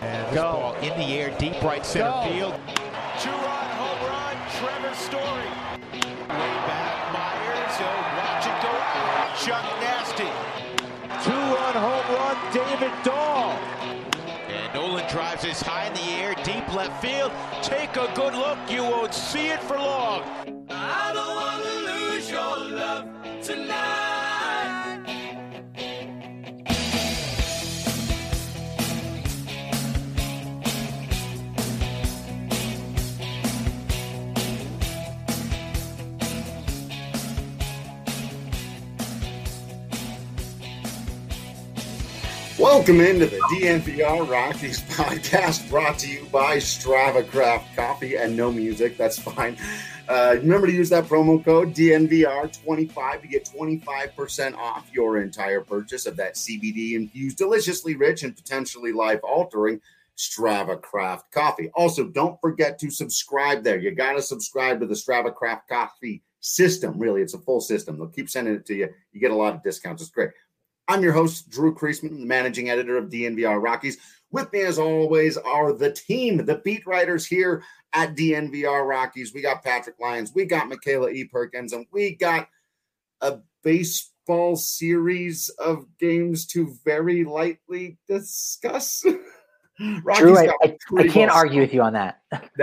And this ball in the air, deep right center field. Two-run home run, Trevor Story. Way back, Myers, watch it go out. Chuck Nasty. Two-run home run, David Dahl. And Nolan drives this high in the air, deep left field. Take a good look, you won't see it for long. I don't want to lose your love tonight. Welcome into the DNVR Rockies podcast, brought to you by Strava Craft Coffee and no music. That's fine. Remember to use that promo code DNVR25 to get 25% off your entire purchase of that CBD-infused, deliciously rich, and potentially life-altering Strava Craft Coffee. Also, don't forget to subscribe there. You got to subscribe to the Strava Craft Coffee system. Really, it's a full system. They'll keep sending it to you. You get a lot of discounts. It's great. I'm your host, Drew Creasman, the managing editor of DNVR Rockies. With me, as always, are the team, the beat writers here at DNVR Rockies. We got Patrick Lyons, we got Michaela E. Perkins, and we got a baseball series of games to very lightly discuss. Drew, I can't argue with you on that.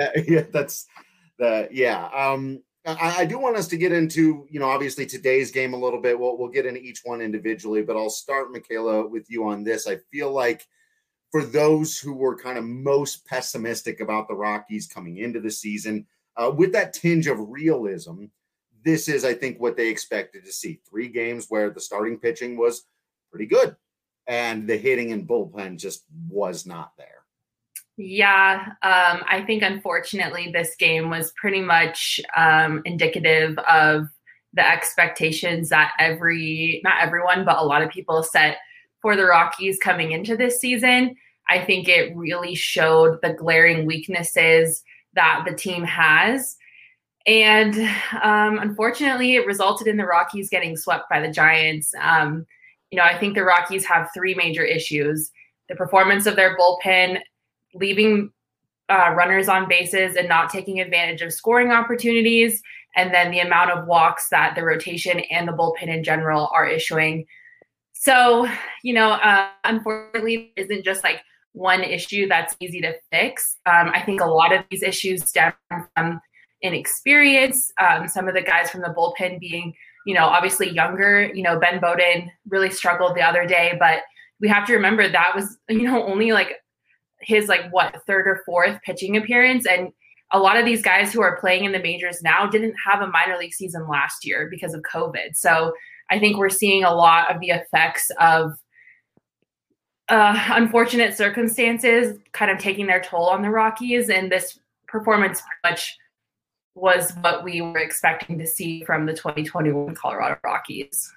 I do want us to get into, obviously today's game a little bit. We'll get into each one individually, but I'll start, Michaela, with you on this. I feel like for those who were kind of most pessimistic about the Rockies coming into the season, with that tinge of realism, this is, I think, what they expected to see. 3 games where the starting pitching was pretty good and the hitting and bullpen just was not there. Yeah, I think unfortunately this game was pretty much indicative of the expectations that not everyone, but a lot of people set for the Rockies coming into this season. I think it really showed the glaring weaknesses that the team has. And unfortunately, it resulted in the Rockies getting swept by the Giants. I think the Rockies have 3 major issues: the performance of their bullpen, leaving runners on bases and not taking advantage of scoring opportunities, and then the amount of walks that the rotation and the bullpen in general are issuing. So, unfortunately, it isn't just like one issue that's easy to fix. I think a lot of these issues stem from inexperience. Some of the guys from the bullpen being, obviously younger. Ben Bowden really struggled the other day, but we have to remember that was, only like his 3rd or 4th pitching appearance. And a lot of these guys who are playing in the majors now didn't have a minor league season last year because of COVID. So I think we're seeing a lot of the effects of unfortunate circumstances kind of taking their toll on the Rockies. And this performance pretty much was what we were expecting to see from the 2021 Colorado Rockies.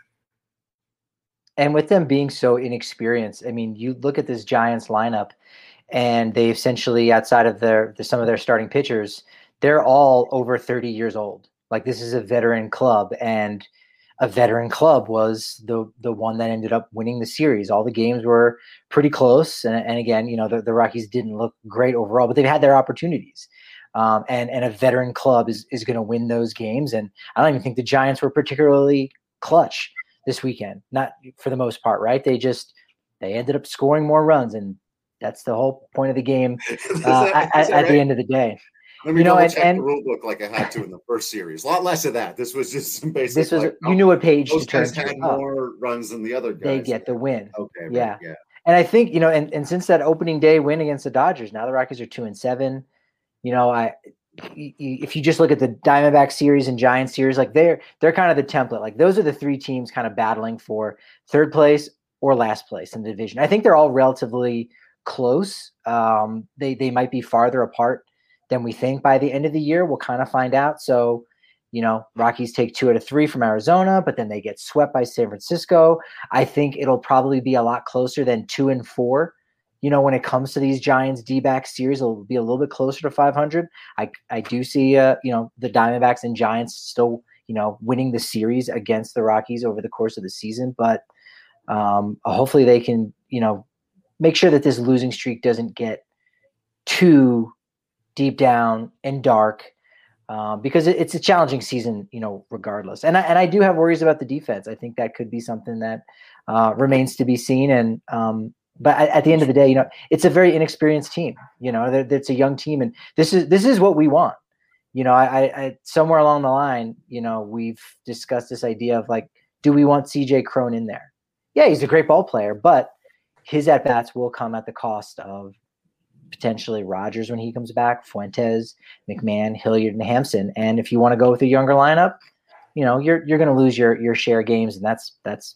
And with them being so inexperienced, I mean, you look at this Giants lineup, and they essentially, outside of some of their starting pitchers, they're all over 30 years old. Like, this is a veteran club, and a veteran club was the one that ended up winning the series. All the games were pretty close, and again, the Rockies didn't look great overall, but they've had their opportunities. And a veteran club is going to win those games, and I don't even think the Giants were particularly clutch this weekend. Not for the most part, right? They ended up scoring more runs, and that's the whole point of the game at the end of the day. Let me check the rule book like I had to in the first series. A lot less of that. This was just some basic. This was you knew what page to turn to. Had more runs than the other guys. They get the win. Okay. Yeah. And I think and since that opening day win against the Dodgers, now the Rockies are 2-7. If you just look at the Diamondback series and Giants series, like they're kind of the template. Like, those are the 3 teams kind of battling for 3rd place or last place in the division. I think they're all relatively close. They might be farther apart than we think by the end of the year. We'll kind of find out. So, Rockies take 2 out of 3 from Arizona, but then they get swept by San Francisco. I think it'll probably be a lot closer than 2-4. When it comes to these Giants D-back series, it'll be a little bit closer to 500. I do see, the Diamondbacks and Giants still, winning the series against the Rockies over the course of the season. But hopefully they can, make sure that this losing streak doesn't get too deep down and dark, because it's a challenging season, regardless. And I do have worries about the defense. I think that could be something that remains to be seen. And but at the end of the day, it's a very inexperienced team. It's a young team, and this is what we want. I somewhere along the line, we've discussed this idea of like, do we want CJ Cron in there? Yeah, he's a great ball player, but his at bats will come at the cost of potentially Rogers when he comes back, Fuentes, McMahon, Hilliard, and Hampson. And if you want to go with a younger lineup, you're going to lose your share games, and that's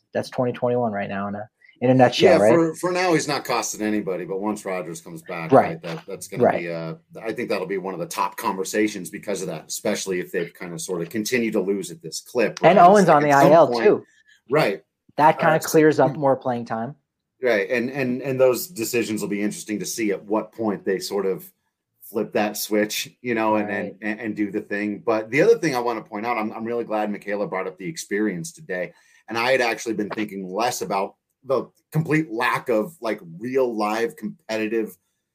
2021 right now in a nutshell. Yeah, right? For now, he's not costing anybody, but once Rogers comes back, right, that's going to be. I think that'll be one of the top conversations because of that, especially if they've kind of sort of continue to lose at this clip. Right? And Owens on the IL too. Right. That kind of clears up more playing time. Right, and those decisions will be interesting to see at what point they sort of flip that switch, right. and do the thing. But the other thing I want to point out, I'm really glad Michaela brought up the experience today, and I had actually been thinking less about the complete lack of like real live competitive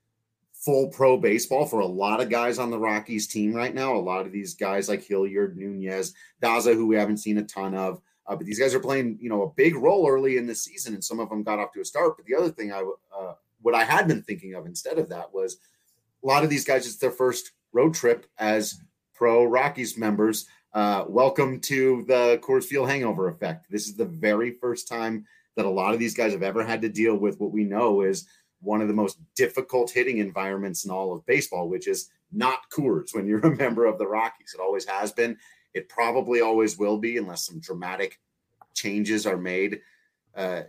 full pro baseball for a lot of guys on the Rockies team right now. A lot of these guys like Hilliard, Nunez, Daza, who we haven't seen a ton of. But these guys are playing, a big role early in the season, and some of them got off to a start. But the other thing what I had been thinking of instead of that was a lot of these guys, it's their first road trip as pro Rockies members. Welcome to the Coors Field hangover effect. This is the very first time that a lot of these guys have ever had to deal with what we know is one of the most difficult hitting environments in all of baseball, which is not Coors when you're a member of the Rockies. It always has been. It probably always will be unless some dramatic changes are made, to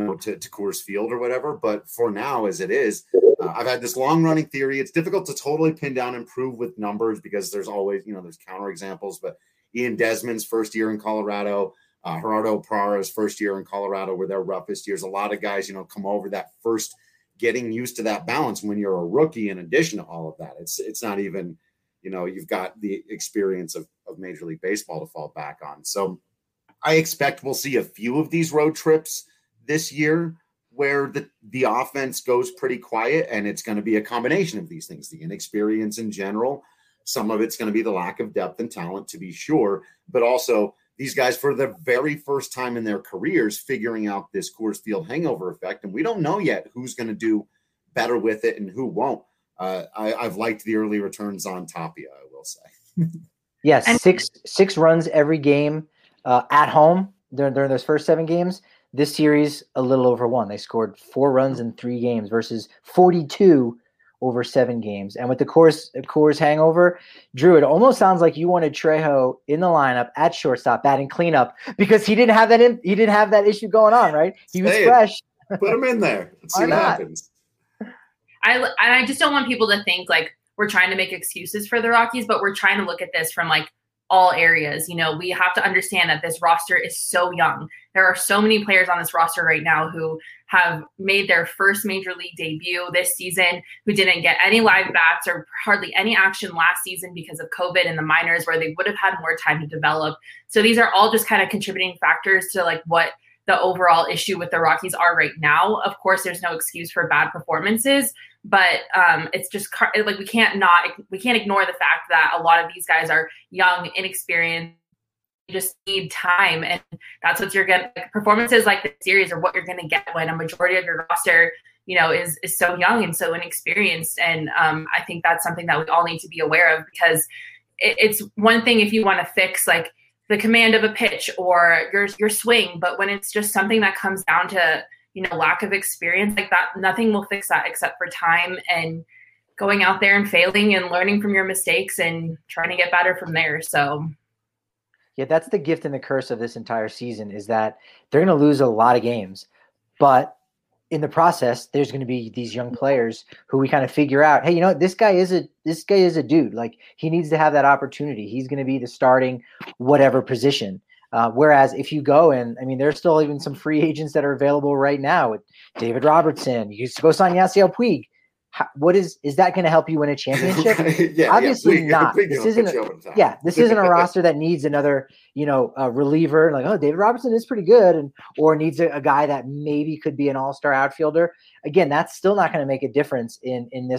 Coors Field or whatever. But for now, as it is, I've had this long running theory. It's difficult to totally pin down and prove with numbers because there's always, there's counterexamples. But Ian Desmond's first year in Colorado, Gerardo Parra's first year in Colorado were their roughest years. A lot of guys, come over that first getting used to that balance when you're a rookie in addition to all of that. It's not even – you've got the experience of Major League Baseball to fall back on. So I expect we'll see a few of these road trips this year where the offense goes pretty quiet, and it's going to be a combination of these things, the inexperience in general. Some of it's going to be the lack of depth and talent, to be sure, but also these guys for the very first time in their careers figuring out this Coors Field hangover effect. And we don't know yet who's going to do better with it and who won't. I've liked the early returns on Tapia, I will say. Yes, six runs every game at home during those first 7 games. This series, a little over 1. They scored 4 runs in 3 games versus 42 over 7 games. And with the Coors hangover, Drew, it almost sounds like you wanted Trejo in the lineup at shortstop, batting cleanup, because he didn't have that issue going on, right? He was fresh. Put him in there. Let's see what happens. I just don't want people to think like we're trying to make excuses for the Rockies, but we're trying to look at this from like all areas. We have to understand that this roster is so young. There are so many players on this roster right now who have made their first major league debut this season, who didn't get any live bats or hardly any action last season because of COVID in the minors, where they would have had more time to develop. So these are all just kind of contributing factors to like what the overall issue with the Rockies are right now. Of course, there's no excuse for bad performances, but it's just like we can't ignore the fact that a lot of these guys are young, inexperienced, just need time, and that's what you're getting. Like, performances like this series are what you're going to get when a majority of your roster, is so young and so inexperienced. And I think that's something that we all need to be aware of, because it's one thing if you want to fix like the command of a pitch or your swing, but when it's just something that comes down to lack of experience like that, nothing will fix that except for time and going out there and failing and learning from your mistakes and trying to get better from there. So yeah, that's the gift and the curse of this entire season, is that they're going to lose a lot of games, but in the process, there's going to be these young players who we kind of figure out, hey, this guy is a dude. Like, he needs to have that opportunity. He's going to be the starting whatever position. Whereas if you go and, there's still even some free agents that are available right now with David Robertson. You used to go sign Yasiel Puig. Is that going to help you win a championship? Obviously not. This isn't a roster that needs another, reliever. Like, oh, David Robertson is pretty good, or needs a guy that maybe could be an all-star outfielder. Again, that's still not going to make a difference in this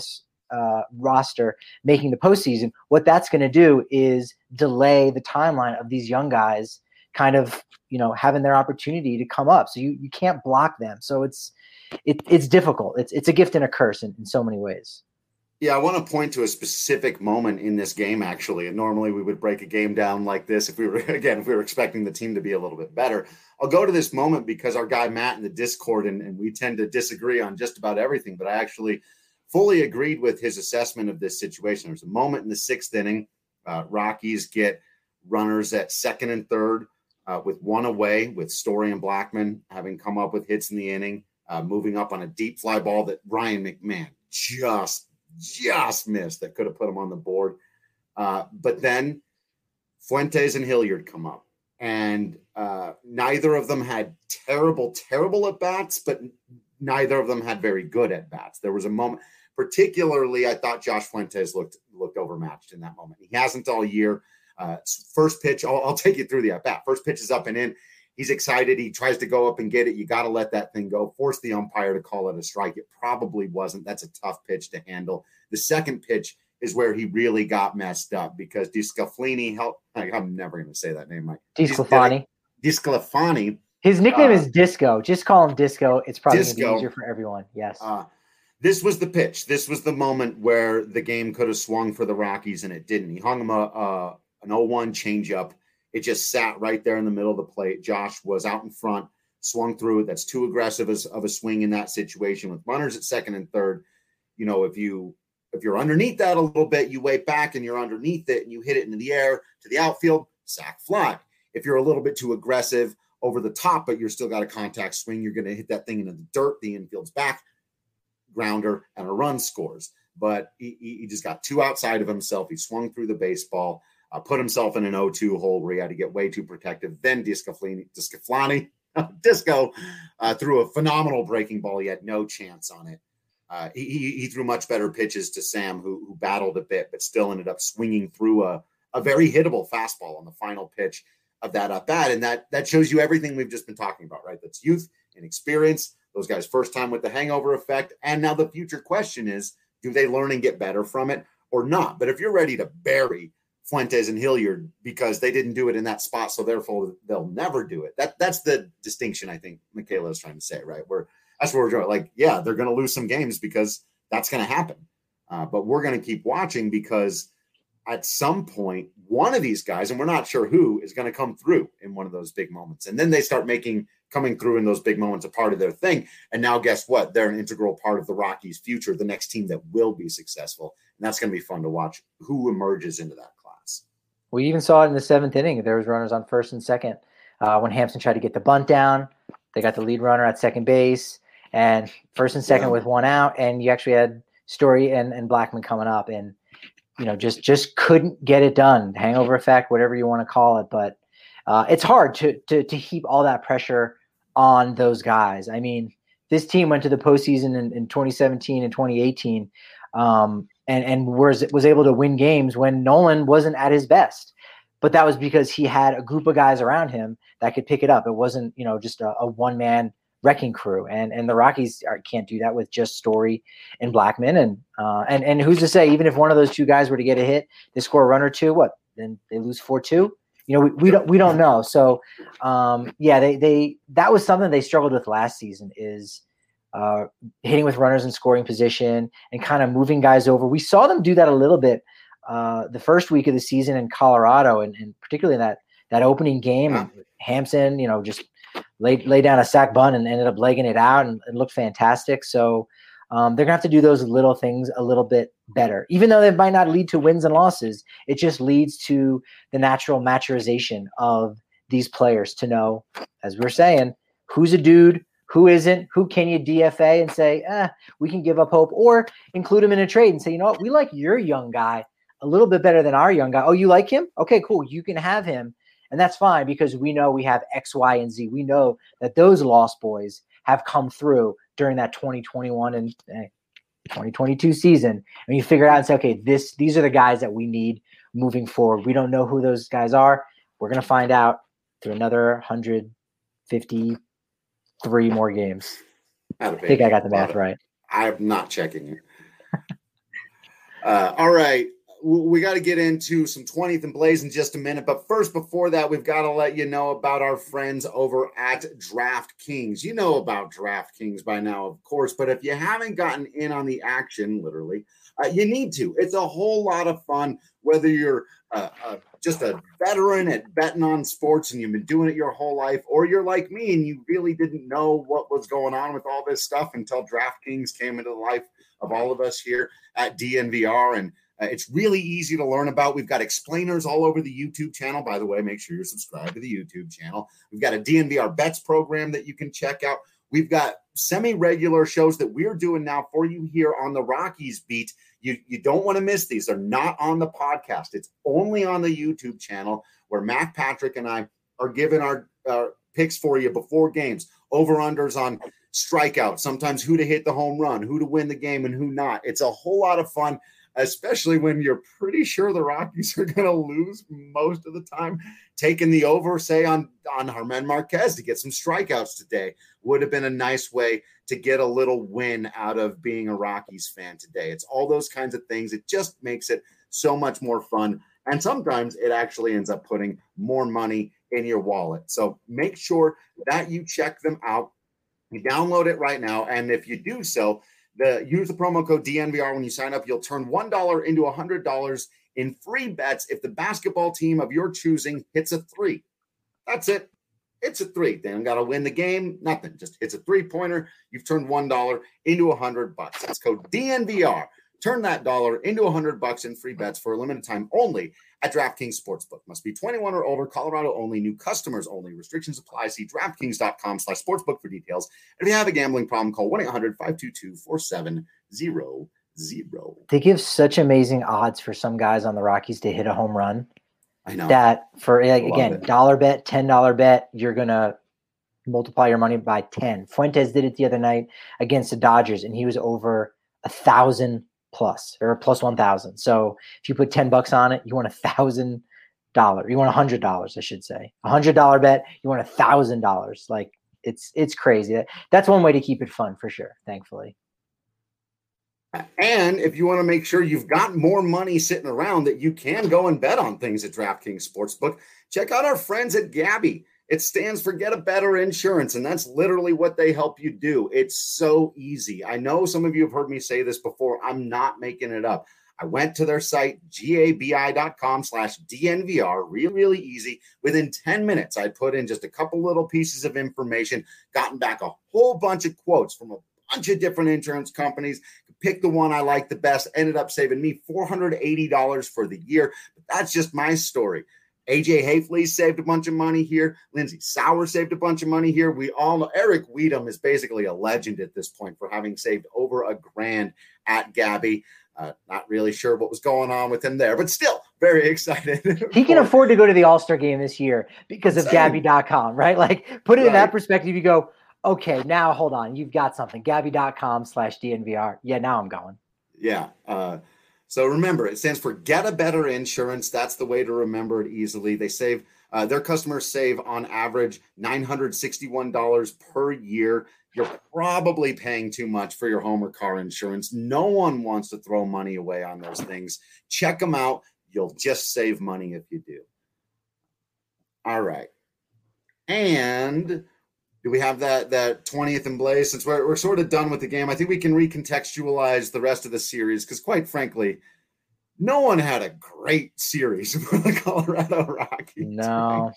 roster making the postseason, what that's going to do is delay the timeline of these young guys kind of, having their opportunity to come up. So you can't block them. So it's difficult. It's a gift and a curse in so many ways. Yeah, I want to point to a specific moment in this game, actually. And normally we would break a game down like this if we were expecting the team to be a little bit better. I'll go to this moment because our guy Matt in the Discord, and we tend to disagree on just about everything, but I actually fully agreed with his assessment of this situation. There's a moment in the 6th inning. Rockies get runners at 2nd and 3rd with one away, with Story and Blackman having come up with hits in the inning, moving up on a deep fly ball that Ryan McMahon just missed that could have put him on the board. But then Fuentes and Hilliard come up, and neither of them had terrible at-bats, but neither of them had very good at-bats. There was a moment, particularly I thought Josh Fuentes looked overmatched in that moment. He hasn't all year. First pitch, I'll take you through the at-bat. First pitch is up and in. He's excited. He tries to go up and get it. You got to let that thing go. Force the umpire to call it a strike. It probably wasn't. That's a tough pitch to handle. The second pitch is where he really got messed up because DeSclafani helped. I'm never going to say that name, Mike. DeSclafani. His nickname is Disco. Just call him Disco. It's probably going to be easier for everyone. Yes. This was the pitch. This was the moment where the game could have swung for the Rockies, and it didn't. He hung him an 0-1 changeup. It just sat right there in the middle of the plate. Josh was out in front, swung through it. That's too aggressive of a swing in that situation with runners at 2nd and 3rd. If you're underneath that a little bit, you wait back and you're underneath it and you hit it into the air to the outfield, sack fly. If you're a little bit too aggressive over the top, but you're still got a contact swing, you're going to hit that thing into the dirt. The infield's back, grounder, and a run scores. But he just got too outside of himself. He swung through the baseball. Put himself in an 0-2 hole where he had to get way too protective. Then Disco threw a phenomenal breaking ball. He had no chance on it. He threw much better pitches to Sam, who battled a bit, but still ended up swinging through a very hittable fastball on the final pitch of that at-bat. And that shows you everything we've just been talking about, right? That's youth and experience. Those guys' first time with the hangover effect. And now the future question is, do they learn and get better from it or not? But if you're ready to bury Fuentes and Hilliard because they didn't do it in that spot, so therefore they'll never do it. That's the distinction I think Michaela is trying to say, right? That's where we're going. Like, yeah, they're going to lose some games because that's going to happen. But we're going to keep watching because at some point, one of these guys, and we're not sure who, is going to come through in one of those big moments. And then they start coming through in those big moments a part of their thing. And now guess what? They're an integral part of the Rockies' future, the next team that will be successful. And that's going to be fun to watch who emerges into that class. We even saw it in the 7th inning. There was runners on 1st and 2nd. When Hampson tried to get the bunt down, they got the lead runner at 2nd base and 1st and 2nd with one out. And you actually had Story and Blackman coming up and, just couldn't get it done. Hangover effect, whatever you want to call it. But it's hard to heap all that pressure on those guys. I mean, this team went to the postseason in 2017 and 2018 and was able to win games when Nolan wasn't at his best. But that was because he had a group of guys around him that could pick it up. It wasn't, just a one-man wrecking crew. And the Rockies can't do that with just Story and Blackman. And who's to say, even if one of those two guys were to get a hit, they score a run or two, then they lose 4-2? We don't know. So, that was something they struggled with last season is hitting with runners in scoring position and kind of moving guys over. We saw them do that a little bit the first week of the season in Colorado, and particularly in that opening game. Yeah. Hampson, just lay down a sack bunt and ended up legging it out and looked fantastic. So they're going to have to do those little things a little bit better. Even though they might not lead to wins and losses, it just leads to the natural maturization of these players to know, as we're saying, who's a dude, who isn't, who can you DFA and say, we can give up hope, or include him in a trade and say, you know what, we like your young guy a little bit better than our young guy. Oh, you like him? Okay, cool. You can have him. And that's fine because we know we have X, Y, and Z. We know that those Lost Boys have come through during that 2021 and 2022 season. And you figure it out and say, okay, these are the guys that we need moving forward. We don't know who those guys are. We're going to find out through another 153 more games. I think I got the math right. I'm not checking it. All right. We got to get into some 20th and Blaze in just a minute. But first, before that, we've got to let you know about our friends over at DraftKings. You know about DraftKings by now, of course. But if you haven't gotten in on the action, literally, you need to. It's a whole lot of fun, whether you're just a veteran at betting on sports and you've been doing it your whole life, or you're like me and you really didn't know what was going on with all this stuff until DraftKings came into the life of all of us here at DNVR. And it's really easy to learn about. We've got explainers all over the YouTube channel. By the way, make sure you're subscribed to the YouTube channel. We've got a DNVR bets program that you can check out. We've got semi-regular shows that we're doing now for you here on the Rockies beat. You don't want to miss these. They're not on the podcast. It's only on the YouTube channel where Matt Patrick and I are giving our picks for you before games, over-unders on strikeouts, sometimes who to hit the home run, who to win the game, and who not. It's a whole lot of fun, especially when you're pretty sure the Rockies are going to lose most of the time. Taking the over, say, on Germán Márquez to get some strikeouts today would have been a nice way to get a little win out of being a Rockies fan today. It's all those kinds of things. It just makes it so much more fun. And sometimes it actually ends up putting more money in your wallet. So make sure that you check them out. You download it right now. And if you do so, use the promo code DNVR when you sign up. You'll turn $1 into $100 in free bets if the basketball team of your choosing hits a three. That's it. It's a three. They don't got to win the game. Nothing. Just it's a three-pointer. You've turned $1 into $100. That's code DNVR. Turn that dollar into $100 in free bets for a limited time only at DraftKings Sportsbook. Must be 21 or older. Colorado only. New customers only. Restrictions apply. See DraftKings.com/sportsbook for details. And if you have a gambling problem, call 1-800-522-4700. They give such amazing odds for some guys on the Rockies to hit a home run. I know. That for, like, again, $1 bet, $10 bet, you're going to multiply your money by 10. Fuentes did it the other night against the Dodgers, and he was over 1,000 plus or plus 1,000. So if you put $10 on it, you want $1,000. You want $100, I should say. $100 bet, you want $1,000. Like, it's crazy. That's one way to keep it fun for sure, thankfully. And if you want to make sure you've got more money sitting around that you can go and bet on things at DraftKings Sportsbook, check out our friends at Gabi. It stands for Get a Better Insurance, and that's literally what they help you do. It's so easy. I know some of you have heard me say this before. I'm not making it up. I went to their site, gabi.com/DNVR, really easy. Within 10 minutes, I put in just a couple little pieces of information, gotten back a whole bunch of quotes from a bunch of different insurance companies, pick the one I like the best, ended up saving me $480 for the year. But that's just my story. AJ Hayfley saved a bunch of money here. Lindsey Sauer saved a bunch of money here. We all know Eric Weedham is basically a legend at this point for having saved over $1,000 at Gabi. Not really sure what was going on with him there, but still very excited. He can afford to go to the All-Star game this year because of Gabi.com, right? Like, put it in that perspective. You go, okay, now hold on. You've got something. Gabi.com/DNVR. Yeah, now I'm going. Yeah. So remember, it stands for Get a Better Insurance. That's the way to remember it easily. They save, their customers save on average $961 per year. You're probably paying too much for your home or car insurance. No one wants to throw money away on those things. Check them out. You'll just save money if you do. All right. And do we have that 20th and Blaze? Since we're sort of done with the game, I think we can recontextualize the rest of the series because, quite frankly, no one had a great series for the Colorado Rockies. No.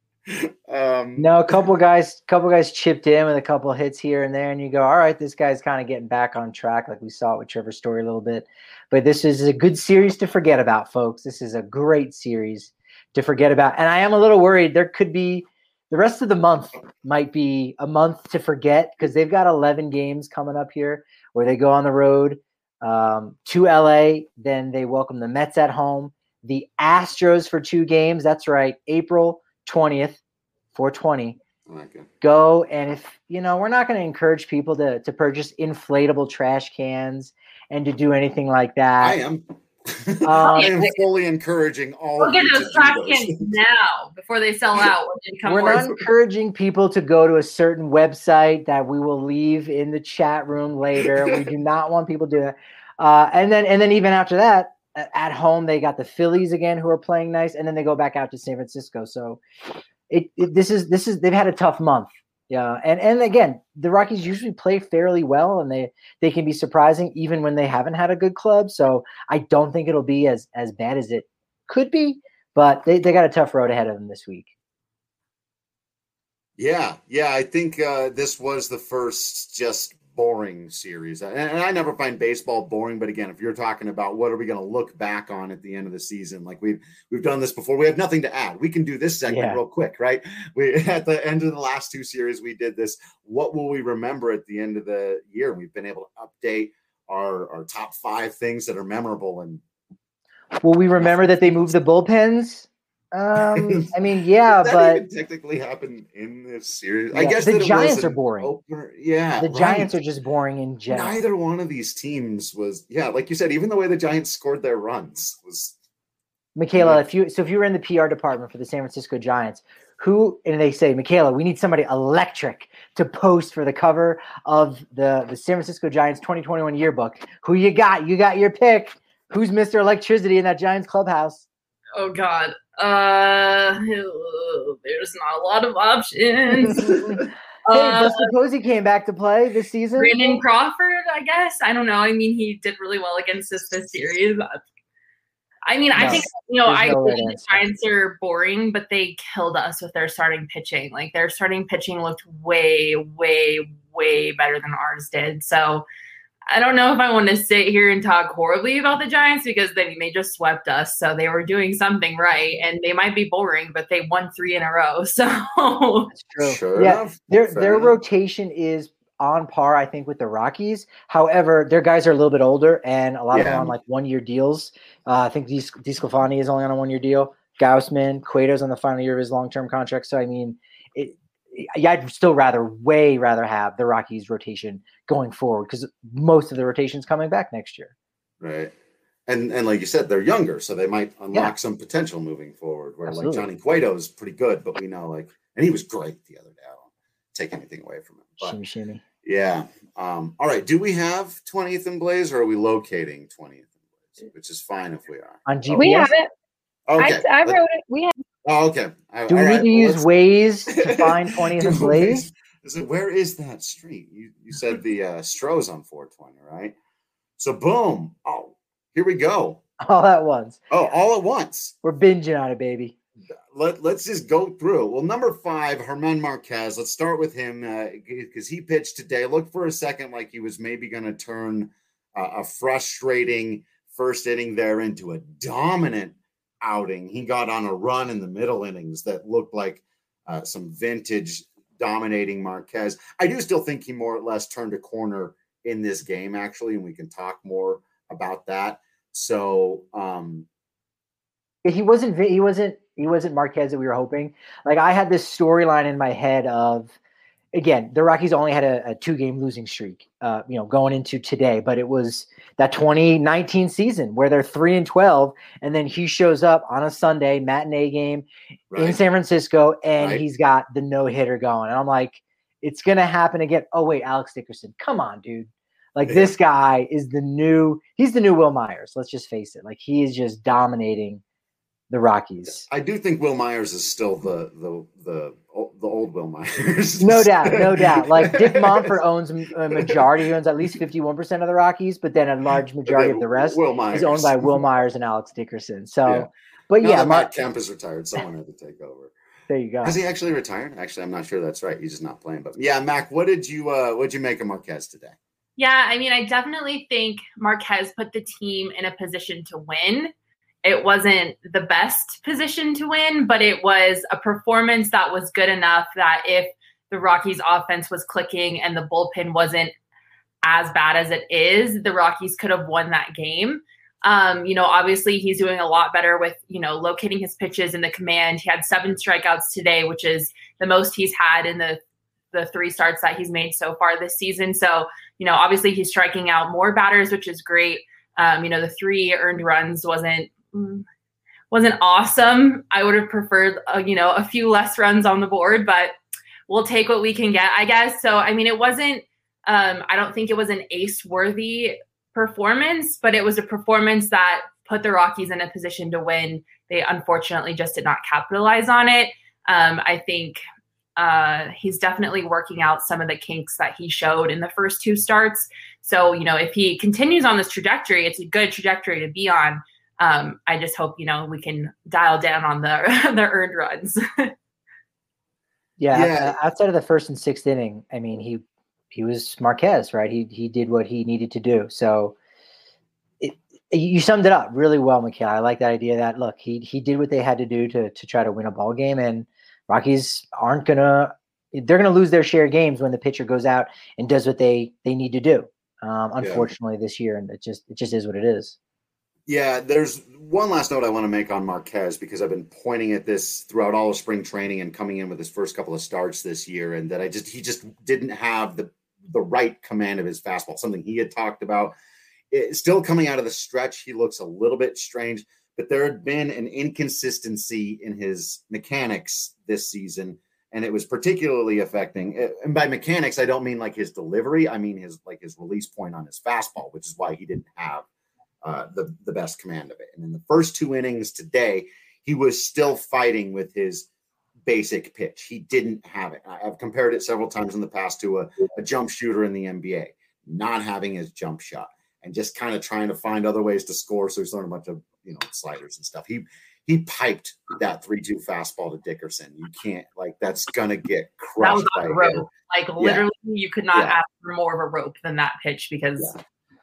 No, a couple guys chipped in with a couple hits here and there, and you go, all right, this guy's kind of getting back on track, like we saw it with Trevor Story a little bit. But this is a good series to forget about, folks. This is a great series to forget about. And I am a little worried there could be the rest of the month might be a month to forget because they've got 11 games coming up here where they go on the road to LA. Then they welcome the Mets at home, the Astros for 2 games. That's right. April 20th, 420. Go. And if, we're not going to encourage people to purchase inflatable trash cans and to do anything like that. I am. I am fully encouraging all of you get those trash cans now before they sell out. We're not encouraging people to go to a certain website that we will leave in the chat room later. We do not want people to do that. And then even after that, at home they got the Phillies again, who are playing nice, and then they go back out to San Francisco. So this is they've had a tough month. Yeah, and again, the Rockies usually play fairly well, and they can be surprising even when they haven't had a good club. So I don't think it'll be as bad as it could be, but they got a tough road ahead of them this week. Yeah, I think this was the first just boring series. And I never find baseball boring, but again, if you're talking about what are we going to look back on at the end of the season, like we've done this before, we have nothing to add. We can do this segment real quick, right? We at the end of the last two series, we did this. What will we remember at the end of the year? We've been able to update our top 5 things that are memorable. And will we remember that they moved the bullpens? I mean, yeah, that but even technically happened in this series. Yeah, I guess the Giants are boring. Opener. Yeah, the Giants are just boring in general. Neither one of these teams was, like you said, even the way the Giants scored their runs was. Michaela, if you were in the PR department for the San Francisco Giants, and they say, Michaela, we need somebody electric to post for the cover of the San Francisco Giants 2021 yearbook. Who you got? You got your pick. Who's Mr. Electricity in that Giants clubhouse? Oh God. There's not a lot of options. Hey, Buster Posey came back to play this season. Brandon Crawford, I guess. I don't know. I mean, he did really well against us this series. I mean, I think, I think the Giants are boring, but they killed us with their starting pitching. Like, their starting pitching looked way, way, way better than ours did. So I don't know if I want to sit here and talk horribly about the Giants because they just swept us. So they were doing something right, and they might be boring, but they won 3 in a row. So that's true. Sure yeah, enough. Their rotation is on par, I think, with the Rockies. However, their guys are a little bit older, and a lot of them on like 1-year deals. I think DeSclafani is only on a 1-year deal. Gausman, Cueto's on the final year of his long-term contract. So I mean, I'd still way rather have the Rockies rotation going forward because most of the rotation's coming back next year. Right. And like you said, they're younger, so they might unlock some potential moving forward. Where Absolutely. like Johnny Cueto is pretty good, but we know and he was great the other day. I don't take anything away from him. But, shimmy. Yeah. All right. Do we have 20th and Blaze, or are we locating 20th and Blaze? Which is fine if we are. On GPS? We have it. Okay. I wrote it. We have. Oh, okay. Do we need to use Waze to find 20th and Blaze? Where is that street? You said the Stroh's on 420, right? So boom. Oh, here we go. All at once. Oh, all at once. We're binging on it, baby. Let's just go through. Well, number 5, Germán Marquez. Let's start with him because he pitched today. Looked for a second like he was maybe going to turn a frustrating first inning there into a dominant outing. He got on a run in the middle innings that looked like some vintage dominating Marquez. I do still think he more or less turned a corner in this game, actually, and we can talk more about that. So he wasn't Marquez that we were hoping. Like, I had this storyline in my head of, again, the Rockies only had a 2-game losing streak, going into today, but it was that 2019 season where they're 3-12, and then he shows up on a Sunday matinee game in San Francisco, and he's got the no-hitter going. And I'm like, it's going to happen again. Oh, wait, Alex Dickerson. Come on, dude. Like, this guy is he's the new Will Myers. Let's just face it. Like, he is just dominating the Rockies. I do think Will Myers is still the old Will Myers. No doubt. Like, Dick Monfort owns a majority. He owns at least 51% of the Rockies, but then a large majority of the rest is owned by Will Myers and Alex Dickerson. So, but now that Matt Kemp is retired, someone had to take over. There you go. Has he actually retired? Actually, I'm not sure that's right. He's just not playing. But yeah, Mac, what'd you make of Marquez today? Yeah, I mean, I definitely think Marquez put the team in a position to win. It wasn't the best position to win, but it was a performance that was good enough that if the Rockies offense was clicking and the bullpen wasn't as bad as it is, the Rockies could have won that game. Obviously he's doing a lot better with, locating his pitches in the command. He had 7 strikeouts today, which is the most he's had in the 3 starts that he's made so far this season. So, obviously he's striking out more batters, which is great. The 3 earned runs wasn't awesome. I would have preferred, a few less runs on the board, but we'll take what we can get, I guess. So, I mean, it wasn't, I don't think it was an ace worthy performance, but it was a performance that put the Rockies in a position to win. They unfortunately just did not capitalize on it. I think he's definitely working out some of the kinks that he showed in the first 2 starts. So, if he continues on this trajectory, it's a good trajectory to be on. I just hope, we can dial down on the the earned runs. Yeah. Outside of the first and 6th inning, I mean, he was Marquez, right? He did what he needed to do. So you summed it up really well, Mikhail. I like the idea that, look, he did what they had to do to try to win a ball game, and Rockies they're gonna lose their share of games when the pitcher goes out and does what they need to do. Unfortunately, this year, and it just is what it is. Yeah, there's one last note I want to make on Marquez, because I've been pointing at this throughout all of spring training and coming in with his first couple of starts this year, and that he just didn't have the right command of his fastball, something he had talked about. Still coming out of the stretch, he looks a little bit strange, but there had been an inconsistency in his mechanics this season, and it was particularly affecting. And by mechanics, I don't mean like his delivery. I mean his release point on his fastball, which is why he didn't have the best command of it. And in the first 2 innings today, he was still fighting with his basic pitch. He didn't have it. I've compared it several times in the past to a jump shooter in the NBA, not having his jump shot and just kind of trying to find other ways to score. So he's throwing a bunch of sliders and stuff. He piped that 3-2 fastball to Dickerson. You can't, that's gonna get crushed. That was on a rope. Literally, you could not ask for more of a rope than that pitch, because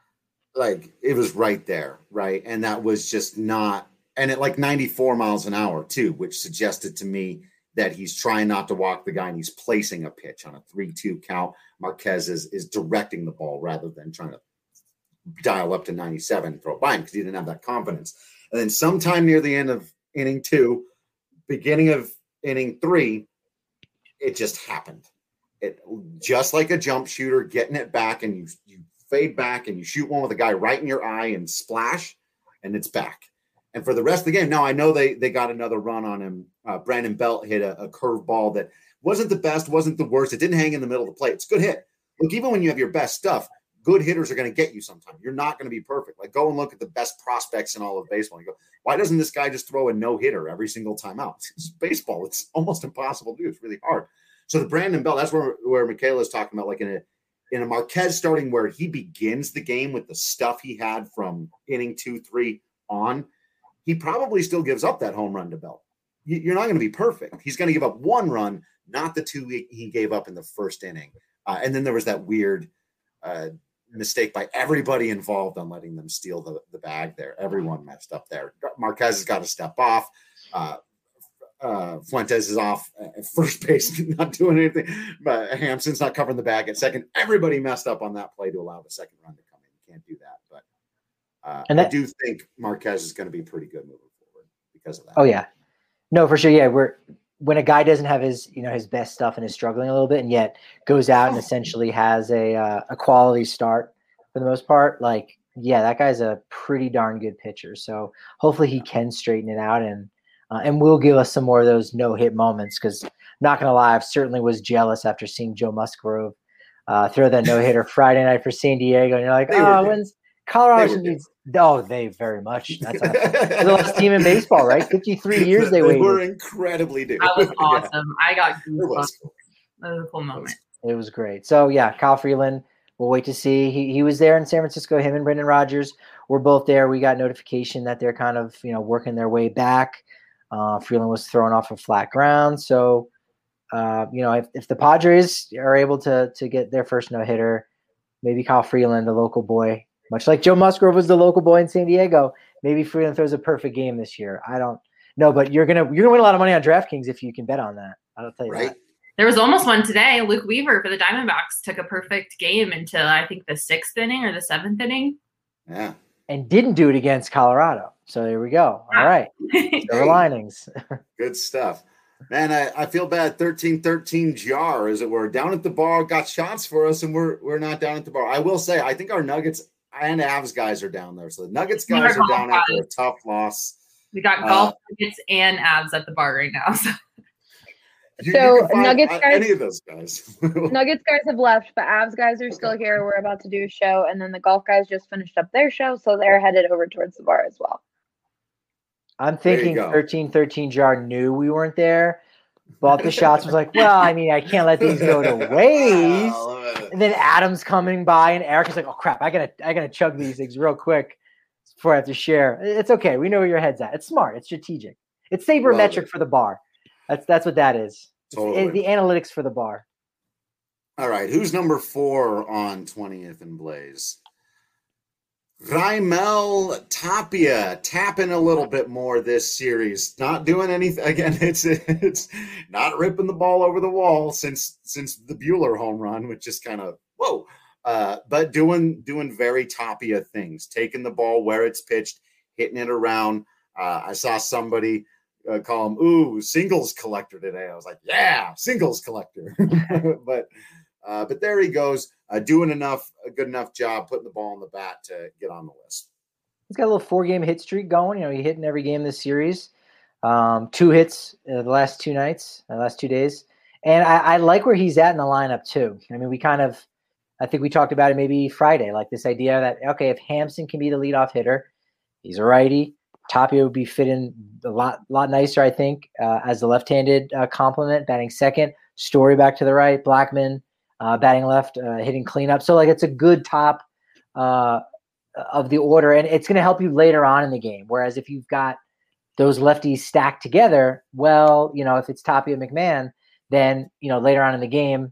it was right there, right? And that was just not, and at 94 miles an hour too, which suggested to me that he's trying not to walk the guy and he's placing a pitch on a 3-2 count. Marquez is directing the ball rather than trying to dial up to 97 and throw it by him, because he didn't have that confidence. And then sometime near the end of inning 2, beginning of inning 3, it just happened. It just like a jump shooter, getting it back, and you fade back and you shoot one with a guy right in your eye and splash, and it's back. And for the rest of the game, now I know they got another run on him. Brandon Belt hit a curve ball that wasn't the best, wasn't the worst. It didn't hang in the middle of the plate. It's a good hit. Look, even when you have your best stuff, good hitters are going to get you sometime. You're not going to be perfect. Go and look at the best prospects in all of baseball. You go, why doesn't this guy just throw a no-hitter every single time out? It's baseball. It's almost impossible to do. It's really hard. So the Brandon Belt, that's where Michaela is talking about, in a Marquez starting where he begins the game with the stuff he had from inning 2-3 on, he probably still gives up that home run to Belt. You're not going to be perfect. He's going to give up 1 run, not the 2 he gave up in the first inning. And then there was that weird mistake by everybody involved on letting them steal the bag there. Everyone messed up there. Marquez has got to step off. Fuentes is off at first base, not doing anything. But Hampson's not covering the bag at second. Everybody messed up on that play to allow the second run to come in. You can't do that. But I do think Marquez is going to be pretty good moving forward because of that. Oh, yeah. No, for sure. Yeah, when a guy doesn't have his best stuff and is struggling a little bit, and yet goes out and essentially has a quality start for the most part, that guy's a pretty darn good pitcher. So hopefully he can straighten it out and will give us some more of those no-hit moments, because not going to lie, I certainly was jealous after seeing Joe Musgrove throw that no-hitter Friday night for San Diego. And you're like, when's Colorado needs – oh, they very much. That's the last team in baseball, right? 53 years they waited. They were incredibly due. That was awesome. I got goosebumps. That was a cool moment. It was great. So, yeah, Kyle Freeland, we'll wait to see. He was there in San Francisco. Him and Brendan Rodgers were both there. We got notification that they're kind of, working their way back. Freeland was thrown off of flat ground. So, if the Padres are able to get their first no-hitter, maybe Kyle Freeland, the local boy, much like Joe Musgrove was the local boy in San Diego, maybe Freeland throws a perfect game this year. I don't know, but you're gonna win a lot of money on DraftKings if you can bet on that. I'll tell you that. There was almost one today. Luke Weaver for the Diamondbacks took a perfect game until I think the 6th inning or the 7th inning. Yeah. And didn't do it against Colorado. So there we go. All right. Silver linings. Good stuff. Man, I feel bad. 13-13 jar, as it were. Down at the bar, got shots for us, and we're not down at the bar. I will say, I think our Nuggets and Avs guys are down there. So the Nuggets guys are down after a tough loss. We got golf Nuggets and Avs at the bar right now. So. You So can find Nuggets guys, any of those guys. Nuggets guys have left, but Avs guys are still here. We're about to do a show, and then the golf guys just finished up their show, so they're headed over towards the bar as well. I'm thinking go. 13 Jar knew we weren't there, bought the shots, was like, well, I mean, I can't let these go to waste. Wow. And then Adam's coming by, and Eric is like, oh crap, I gotta chug these things real quick before I have to share. It's okay. We know where your head's at. It's smart. It's strategic. It's sabermetric for the bar. That's what that is. Totally. It's the analytics for the bar. All right, who's number 4 on 20th and Blaze? Raimel Tapia tapping a little bit more this series. Not doing anything. Again, it's not ripping the ball over the wall since the Buehler home run, which is kind of whoa. But doing very Tapia things, taking the ball where it's pitched, hitting it around. I saw somebody call him, ooh, singles collector today. I was like, yeah, singles collector. But there he goes, doing a good enough job putting the ball in the bat to get on the list. He's got a little 4-game hit streak going. He hit in every game this series. 2 hits the last 2 nights, last 2 days. And I like where he's at in the lineup too. I mean, I think we talked about it maybe Friday, like this idea that, okay, if Hampson can be the leadoff hitter, he's a righty. Tapia would be fitting a lot nicer, I think, as the left-handed complement, batting second. Story back to the right. Blackman batting left, hitting cleanup. So, like, it's a good top of the order, and it's going to help you later on in the game. Whereas if you've got those lefties stacked together, well, if it's Tapia McMahon, then, later on in the game,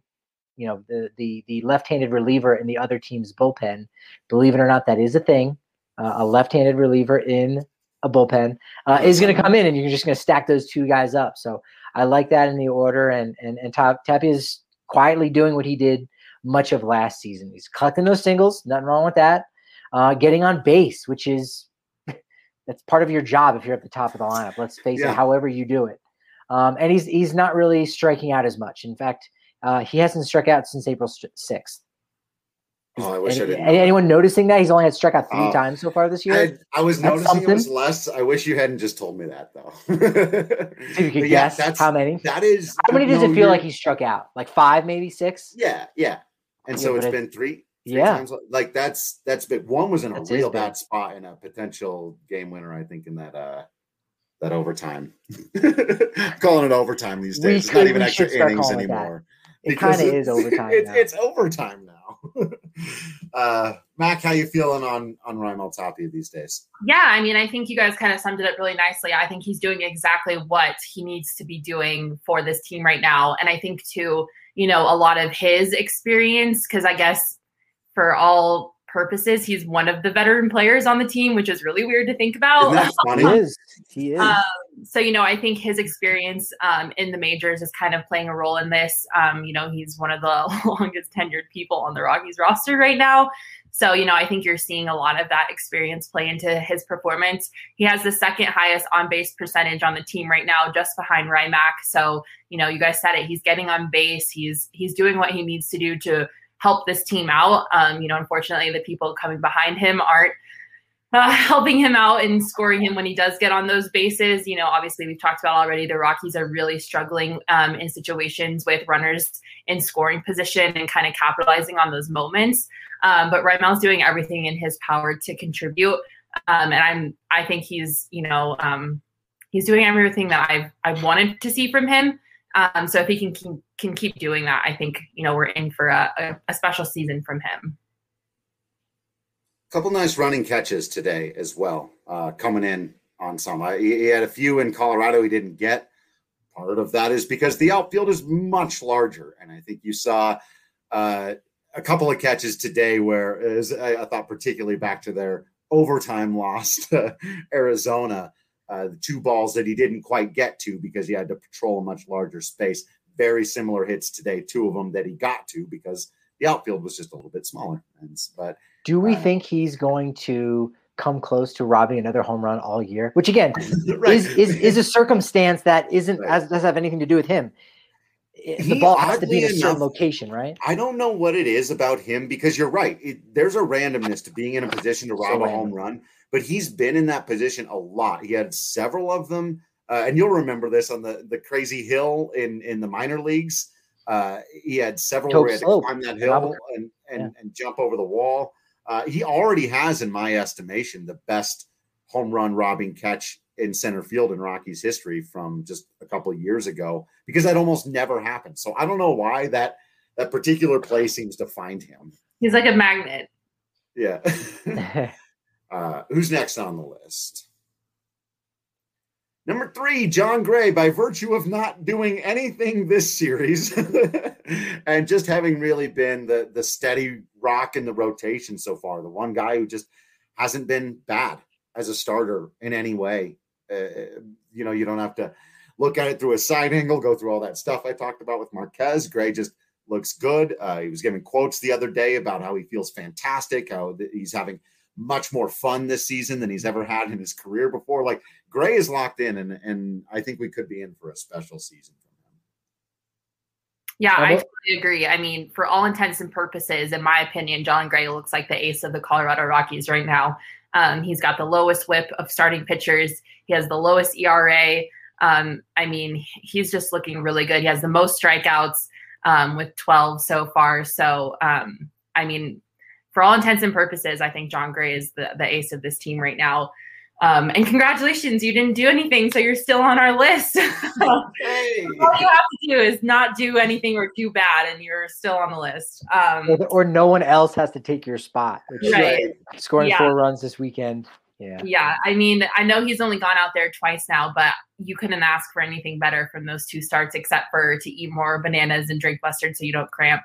the left-handed reliever in the other team's bullpen, believe it or not, that is a thing. A left-handed reliever in a bullpen is going to come in, and you're just going to stack those 2 guys up. So I like that in the order, and Tapia is quietly doing what he did much of last season. He's collecting those singles, nothing wrong with that. Getting on base, which is that's part of your job if you're at the top of the lineup. Let's face it, however you do it. And he's not really striking out as much. In fact, he hasn't struck out since April 6th. Oh, I wish I didn't. Anyone noticing that? He's only had struck out 3 times so far this year. I was noticing it was less. I wish you hadn't just told me that, though. So you could guess how many? That is. How many does it feel like he struck out? Like 5, maybe 6? Yeah. And so it's been 3 times. Like that's big. One was in a real bad spot in a potential game winner, I think, in that overtime. Calling it overtime these days. It's not even extra innings anymore. It kind of is overtime. It's overtime now. Mac, how you feeling on Raimel Tapia these days? Yeah, I mean, I think you guys kind of summed it up really nicely. I think he's doing exactly what he needs to be doing for this team right now. And I think too, a lot of his experience, because I guess for all purposes, he's one of the veteran players on the team, which is really weird to think about. Isn't that funny? He is. So, I think his experience in the majors is kind of playing a role in this. He's one of the longest tenured people on the Rockies roster right now. So, I think you're seeing a lot of that experience play into his performance. He has the 2nd highest on-base percentage on the team right now, just behind Rymack. So, you guys said it. He's getting on base. He's doing what he needs to do to help this team out. Unfortunately, the people coming behind him aren't helping him out and scoring him when he does get on those bases. Obviously we've talked about already, the Rockies are really struggling in situations with runners in scoring position and kind of capitalizing on those moments. But Raimel's doing everything in his power to contribute. And I think he's doing everything that I've wanted to see from him. So if he can keep doing that, I think, we're in for a special season from him. Couple nice running catches today as well, coming in on some. He had a few in Colorado he didn't get. Part of that is because the outfield is much larger, and I think you saw a couple of catches today where, as I thought particularly back to their overtime loss to Arizona, the 2 balls that he didn't quite get to because he had to patrol a much larger space. Very similar hits today, 2 of them that he got to because the outfield was just a little bit smaller. But do we think he's going to come close to robbing another home run all year? Which again is a circumstance that doesn't have anything to do with him. The ball has to be in a certain location, right? I don't know what it is about him because you're right. There's a randomness to being in a position to rob a home run, but he's been in that position a lot. He had several of them and you'll remember this on the crazy hill in the minor leagues. He had several where he had to climb that hill and jump over the wall. He already has, in my estimation, the best home run robbing catch in center field in Rockies history from just a couple of years ago, because that almost never happened. So I don't know why that particular play seems to find him. He's like a magnet. Yeah. Who's next on the list? Number 3, Jon Gray, by virtue of not doing anything this series and just having really been the steady rock in the rotation so far, the one guy who just hasn't been bad as a starter in any way. You don't have to look at it through a side angle, go through all that stuff I talked about with Marquez. Gray just looks good. He was giving quotes the other day about how he feels fantastic, how he's having much more fun this season than he's ever had in his career before. Like, Gray is locked in, and I think we could be in for a special season from him. Yeah, I totally agree. I mean, for all intents and purposes, in my opinion, Jon Gray looks like the ace of the Colorado Rockies right now. He's got the lowest whip of starting pitchers. He has the lowest ERA. I mean, he's just looking really good. He has the most strikeouts with 12 so far. So, I mean, for all intents and purposes, I think Jon Gray is the ace of this team right now. And congratulations, you didn't do anything, so you're still on our list. Hey. All you have to do is not do anything or do bad, and you're still on the list. Or no one else has to take your spot. Right. Scoring 4 runs this weekend. Yeah. I mean, I know he's only gone out there twice now, but you couldn't ask for anything better from those 2 starts, except for to eat more bananas and drink mustard so you don't cramp.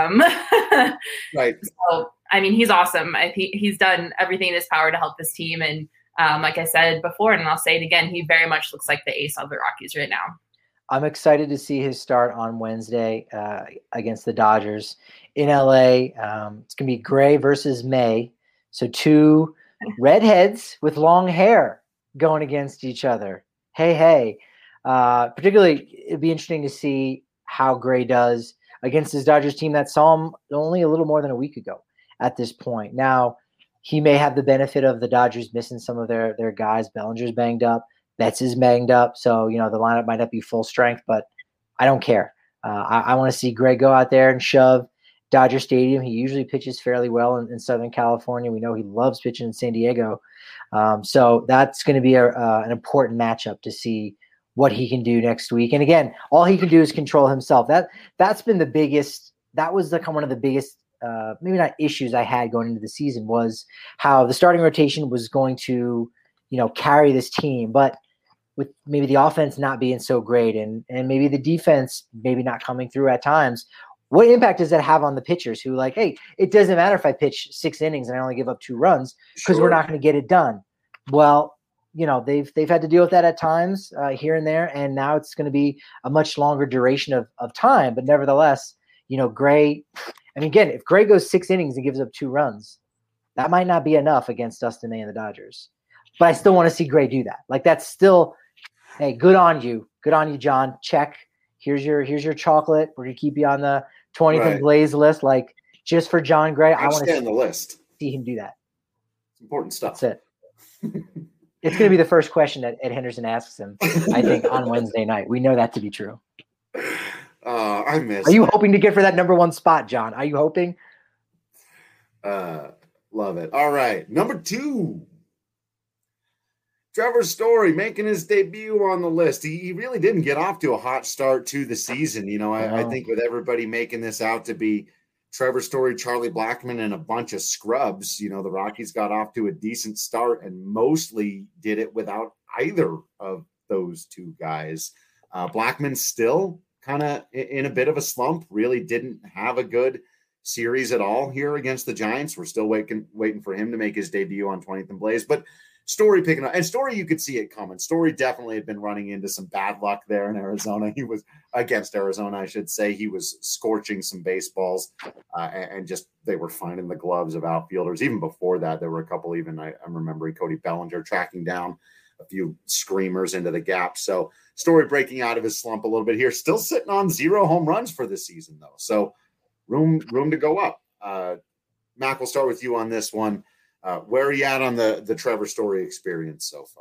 Right. So, I mean, he's awesome. He's done everything in his power to help this team. And like I said before, and I'll say it again, he very much looks like the ace of the Rockies right now. I'm excited to see his start on Wednesday against the Dodgers in LA. It's going to be Gray versus May. So 2 redheads with long hair going against each other. Hey. Particularly, it'd be interesting to see how Gray does against his Dodgers team that saw him only a little more than a week ago at this point. Now, he may have the benefit of the Dodgers missing some of their guys. Bellinger's banged up. Betts is banged up. So, the lineup might not be full strength, but I don't care. I want to see Gray go out there and shove Dodger Stadium. He usually pitches fairly well in Southern California. We know he loves pitching in San Diego. So that's going to be an important matchup to see what he can do next week. And again, all he can do is control himself. That's been the biggest – that was one of the biggest maybe not issues I had going into the season, was how the starting rotation was going to, carry this team. But with maybe the offense not being so great and maybe the defense maybe not coming through at times, what impact does that have on the pitchers who hey, it doesn't matter if I pitch 6 innings and I only give up 2 runs because we're not going to get it done. Well, they've had to deal with that at times here and there, and now it's going to be a much longer duration of time. But nevertheless, Gray, again, if Gray goes 6 innings and gives up 2 runs, that might not be enough against Dustin May and the Dodgers. But I still want to see Gray do that. That's still, hey, good on you. Good on you, John. Check. Here's your chocolate. We're going to keep you on the 20th and Blaze list. Just for Jon Gray, I want to on the list. See him do that. It's important stuff. That's it. It's going to be the first question that Ed Henderson asks him, I think, on Wednesday night. We know that to be true. I miss. Are you hoping to get for that number 1 spot, John? Are you hoping? Love it. All right. Number 2. Trevor Story making his debut on the list. He really didn't get off to a hot start to the season. I think with everybody making this out to be Trevor Story, Charlie Blackmon, and a bunch of scrubs, the Rockies got off to a decent start and mostly did it without either of those 2 guys. Blackmon still kind of in a bit of a slump, really didn't have a good series at all here against the Giants. We're still waiting for him to make his debut on 20th and Blaze, but Story picking up, and Story, you could see it coming. Story definitely had been running into some bad luck there in Arizona. He was against Arizona, I should say. He was scorching some baseballs, and just they were finding the gloves of outfielders. Even before that, there were a couple. Even I'm remembering Cody Bellinger tracking down a few screamers into the gap. So Story breaking out of his slump a little bit here. Still sitting on 0 home runs for this season, though. So room to go up. Mac, we'll start with you on this one. Where are you at on the Trevor Story experience so far?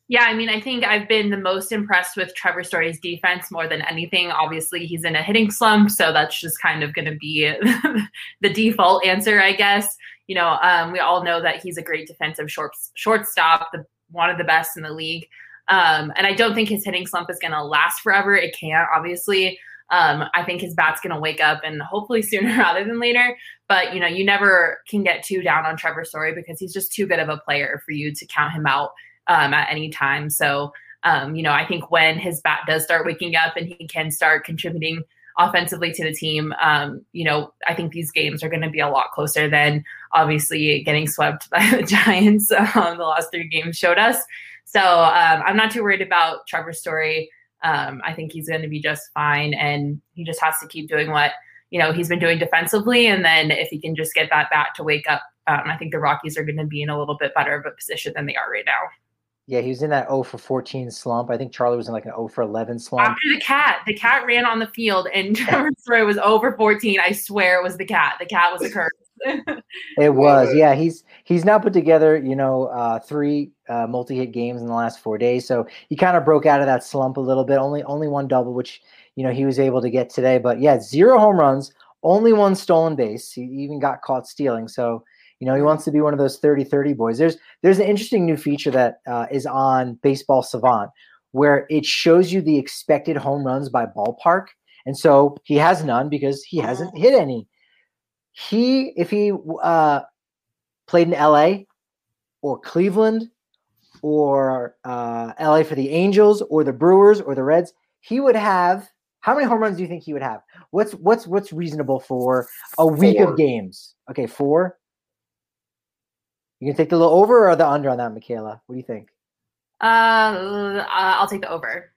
Yeah, I mean, I think I've been the most impressed with Trevor Story's defense more than anything. Obviously, he's in a hitting slump, so that's just kind of going to be the default answer, I guess. We all know that he's a great defensive shortstop, one of the best in the league. And I don't think his hitting slump is going to last forever. It can't, obviously. I think his bat's going to wake up, and hopefully sooner rather than later. But, you never can get too down on Trevor Story because he's just too good of a player for you to count him out at any time. So, I think when his bat does start waking up and he can start contributing offensively to the team, I think these games are going to be a lot closer than obviously getting swept by the Giants. The last 3 games showed us. So I'm not too worried about Trevor Story. I think he's going to be just fine, and he just has to keep doing what, he's been doing defensively. And then if he can just get that bat to wake up, I think the Rockies are going to be in a little bit better of a position than they are right now. Yeah, he was in that 0 for 14 slump. I think Charlie was in like an 0 for 11 slump. After the cat ran on the field, and Trevor Story was 0 for 14. I swear it was the cat. The cat was a curse. It was, yeah. He's now put together, 3 multi-hit games in the last 4 days. So he kind of broke out of that slump a little bit. Only 1 double, which he was able to get today. But yeah, 0 home runs, only 1 stolen base. He even got caught stealing. So he wants to be one of those 30-30 boys. There's an interesting new feature that is on Baseball Savant where it shows you the expected home runs by ballpark. And so he has none because he hasn't hit any. If he played in LA or Cleveland or LA for the Angels or the Brewers or the Reds, he would have – how many home runs do you think he would have? What's reasonable for a week 4 of games? Okay, 4. You can take the little over or the under on that, Michaela? What do you think? I'll take the over.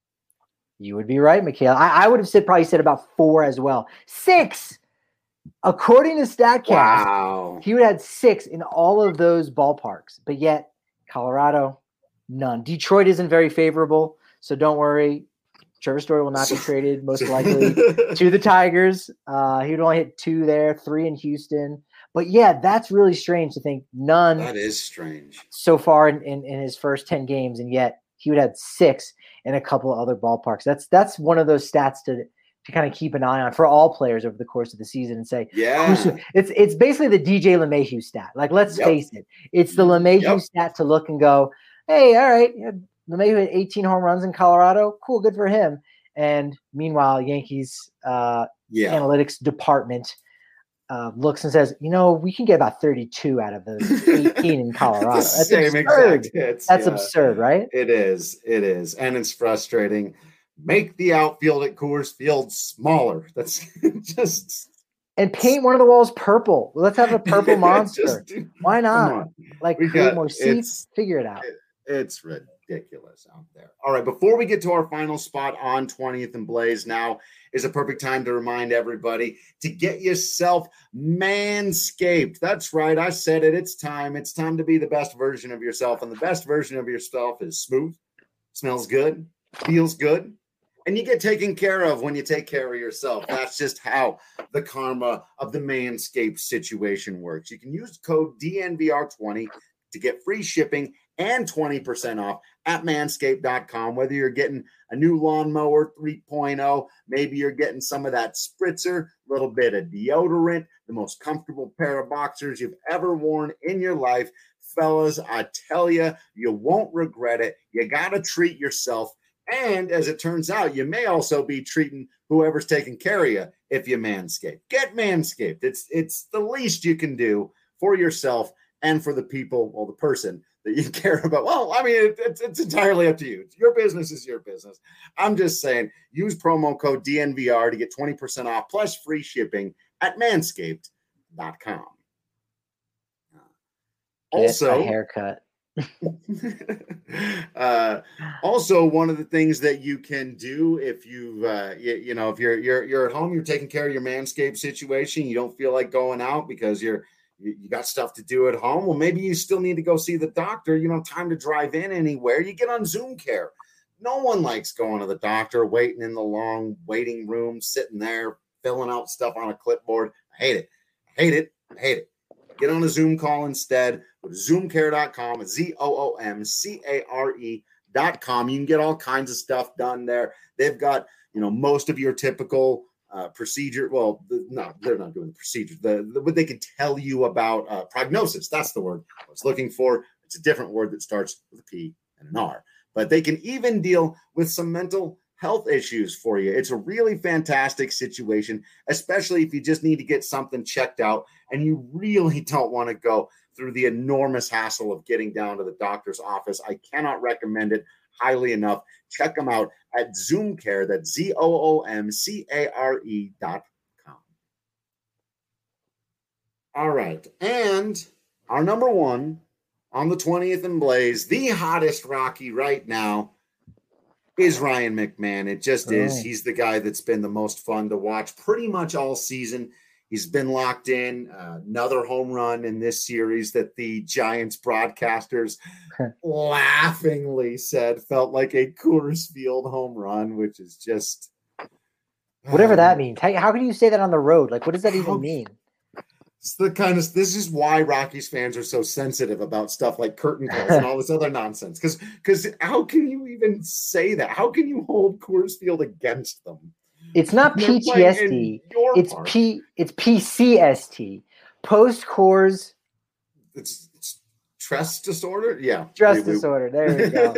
You would be right, Michaela. I would have probably said about 4 as well. 6! According to StatCast, wow. He would have had 6 in all of those ballparks. But yet, Colorado, none. Detroit isn't very favorable, so don't worry. Trevor Story will not be traded, most likely, to the Tigers. He would only hit 2 there, 3 in Houston. But yeah, that's really strange to think none. That is strange. So far in his first 10 games, and yet he would have 6 in a couple of other ballparks. That's one of those stats to kind of keep an eye on for all players over the course of the season and say, yeah, it's basically the DJ LeMahieu stat. Like, let's face it, it's the LeMahieu stat to look and go, hey, all right, LeMahieu had 18 home runs in Colorado. Cool, good for him. And meanwhile, Yankees analytics department looks and says, we can get about 32 out of those 18 in Colorado. That's absurd. That's absurd, right? It is. And it's frustrating. Make the outfield at Coors Field smaller. That's just. And paint one of the walls purple. Let's have a purple monster. Why not? Like, create more seats. Figure it out. It's ridiculous out there. All right, before we get to our final spot on 20th and Blaze, now is a perfect time to remind everybody to get yourself Manscaped. That's right, I said it. It's time. It's time to be the best version of yourself, and the best version of yourself is smooth, smells good, feels good, and you get taken care of when you take care of yourself. That's just how the karma of the Manscaped situation works. You can use code DNVR20 to get free shipping and 20% off at manscaped.com. Whether you're getting a new lawnmower 3.0, maybe you're getting some of that spritzer, a little bit of deodorant, the most comfortable pair of boxers you've ever worn in your life. Fellas, I tell you, you won't regret it. You got to treat yourself. And as it turns out, you may also be treating whoever's taking care of you if you Manscaped. Get Manscaped. It's the least you can do for yourself and for the people, well, the person that you care about. Well, I mean, it's entirely up to you. Your business is your business. I'm just saying, use promo code DNVR to get 20% off plus free shipping at manscaped.com. Also, a haircut. Also, one of the things that you can do if if you're at home, you're taking care of your Manscaped situation, you don't feel like going out because you got stuff to do at home. Well, maybe you still need to go see the doctor. You don't have time to drive in anywhere. You get on Zoom Care. No one likes going to the doctor, waiting in the long waiting room, sitting there, filling out stuff on a clipboard. I hate it. Get on a Zoom call instead Go to zoomcare.com, ZOOMCARE.com. You can get all kinds of stuff done there. They've got, most of your typical procedure. Well, no, they're not doing the procedure. What they can tell you about prognosis. That's the word I was looking for. It's a different word that starts with a P and an R. But they can even deal with some mental health issues for you. It's a really fantastic situation, especially if you just need to get something checked out and you really don't want to go through the enormous hassle of getting down to the doctor's office. I cannot recommend it highly enough. Check them out at ZoomCare. That's ZOOMCARE.com. All right. And our number one on the 20th and Blaze, the hottest Rocky right now, is Ryan McMahon. It just is. He's the guy that's been the most fun to watch pretty much all season. He's been locked in. Another home run in this series that the Giants broadcasters laughingly said felt like a Coors Field home run, which is just... Whatever that means. How can you say that on the road? Like, what does that even mean? It's this is why Rockies fans are so sensitive about stuff like curtain calls and all this other nonsense. Because how can you even say that? How can you hold Coors Field against them? It's not PTSD. It's PCST. Post Coors. It's stress disorder. Yeah, stress disorder. There we go.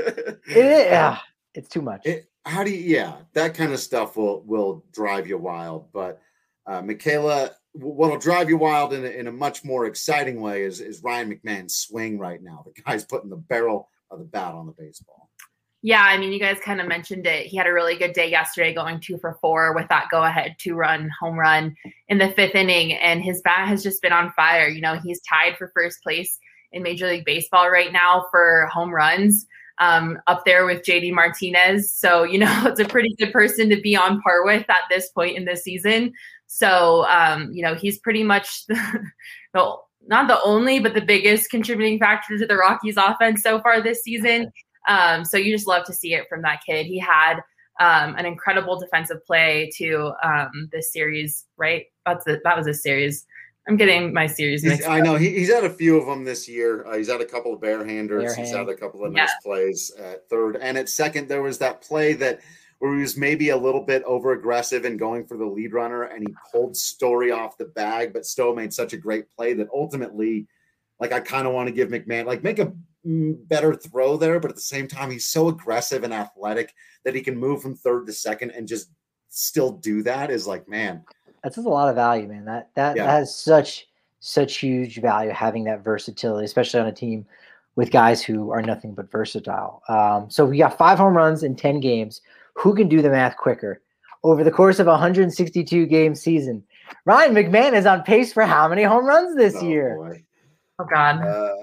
It's too much. That kind of stuff will drive you wild. But Michaela, what'll drive you wild in a much more exciting way is Ryan McMahon's swing right now. The guy's putting the barrel of the bat on the baseball. Yeah, I mean, you guys kind of mentioned it. He had a really good day yesterday, going 2 for 4 with that go-ahead 2-run home run in the 5th inning, and his bat has just been on fire. He's tied for first place in Major League Baseball right now for home runs, up there with JD Martinez. So, it's a pretty good person to be on par with at this point in the season. So, he's pretty much not the only, but the biggest contributing factor to the Rockies offense so far this season. So you just love to see it from that kid. He had an incredible defensive play to this series, right? That was a series. I'm getting my series mixed up. I know he's had a few of them this year. He's had a couple of barehanders. He's had a couple of nice plays at third. And at second, there was that play where he was maybe a little bit over aggressive and going for the lead runner, and he pulled Story off the bag. But Stowe made such a great play that ultimately, I kind of want to give McMahon, make a better throw there, but at the same time, he's so aggressive and athletic that he can move from third to second and just still do that is man. That's a lot of value, man. That has such huge value, having that versatility, especially on a team with guys who are nothing but versatile. So we got 5 home runs in 10 games. Who can do the math quicker? Over the course of a 162-game season, Ryan McMahon is on pace for how many home runs this year? Boy. Oh, God.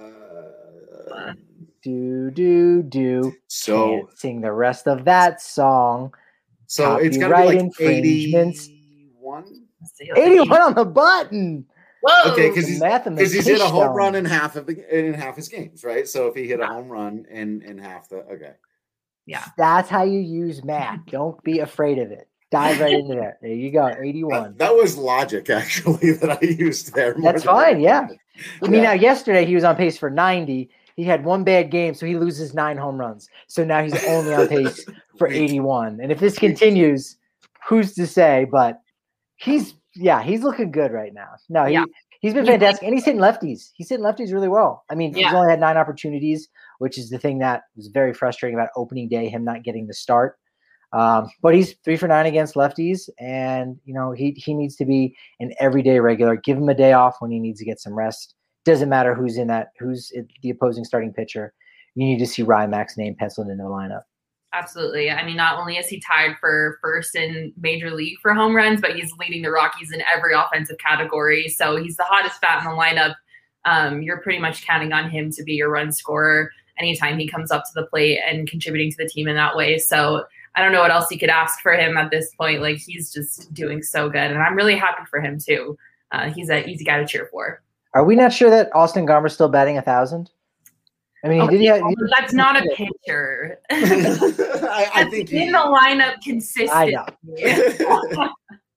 Do. So can't sing the rest of that song. So it's got to be 81? 81 on the button. Whoa. Okay, because he's hit a home run in half his games, right? So if he hit a home run in half yeah, that's how you use math. Don't be afraid of it. Dive right into there. There you go. 81. That was logic, actually, that I used there. That's fine. Yeah. I mean, now yesterday he was on pace for 90. He had one bad game, so he loses 9 home runs. So now he's only on pace for 81. And if this continues, who's to say? But he's looking good right now. No, he's been fantastic, and he's hitting lefties. He's hitting lefties really well. I mean, he's only had 9 opportunities, which is the thing that was very frustrating about opening day, him not getting the start. But he's 3 for 9 against lefties, and he needs to be an everyday regular. Give him a day off when he needs to get some rest. Doesn't matter who's the opposing starting pitcher. You need to see Ryan Mac's name penciled into the lineup. Absolutely. I mean, not only is he tied for first in Major League for home runs, but he's leading the Rockies in every offensive category. So he's the hottest bat in the lineup. You're pretty much counting on him to be your run scorer anytime he comes up to the plate and contributing to the team in that way. So I don't know what else you could ask for him at this point. He's just doing so good. And I'm really happy for him too. He's an easy guy to cheer for. Are we not sure that Austin Garmer's still batting 1,000? I mean, that's not a pitcher. I think in the lineup consistently. I know.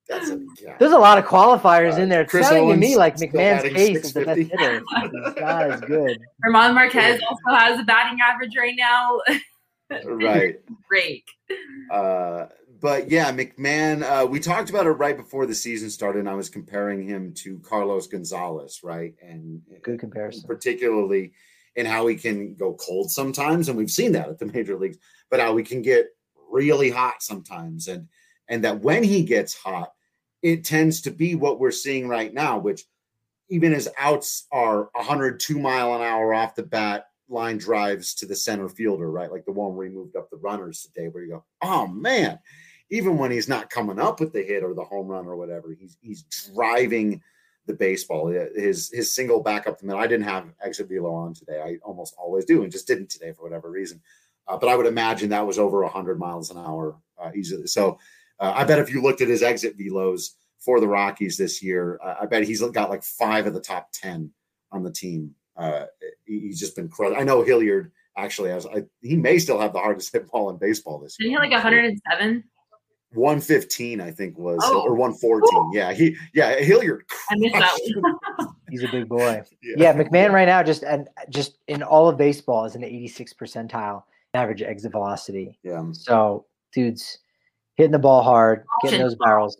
There's a lot of qualifiers in there. It's Chris sounding to Owens me like still McMahon's batting case is the best 650. hitter. He's not as good. Herman Marquez also has a batting average right now. Right. Great. But yeah, McMahon, we talked about it right before the season started, and I was comparing him to Carlos Gonzalez, right? And Good comparison. particularly in how he can go cold sometimes, and we've seen that at the major leagues, but how he can get really hot sometimes. And that when he gets hot, it tends to be what we're seeing right now, which even his outs are 102 mile an hour off the bat line drives to the center fielder, right? Like the one where he moved up the runners today, where you go, oh man, even when he's not coming up with the hit or the home run or whatever, he's driving the baseball. His single back up the middle. I didn't have exit velo on today. I almost always do, and just didn't today for whatever reason. But I would imagine that was over 100 miles an hour easily. So I bet if you looked at his exit velos for the Rockies this year, I bet he's got like 5 of the top 10 on the team. He's just been crushing. I know Hilliard actually has. He may still have the hardest hit ball in baseball this year. Didn't he like 107? 115, I think was, Oh. or 114. Cool. Yeah, Hilliard. I missed that one. He's a big boy. Yeah, McMahon right now just in all of baseball is an 86th percentile average exit velocity. Yeah. So dude's hitting the ball hard, getting those barrels.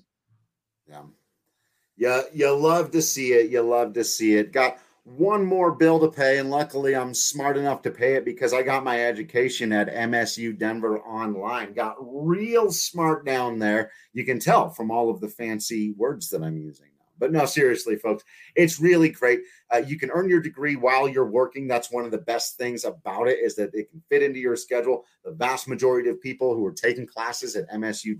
Yeah. You love to see it. You love to see it. Got one more bill to pay, and luckily I'm smart enough to pay it because I got my education at MSU Denver online. Got real smart down there. You can tell from all of the fancy words that I'm using now. But no, seriously, folks, it's really great. You can earn your degree while you're working. That's one of the best things about it, is that it can fit into your schedule. The vast majority of people who are taking classes at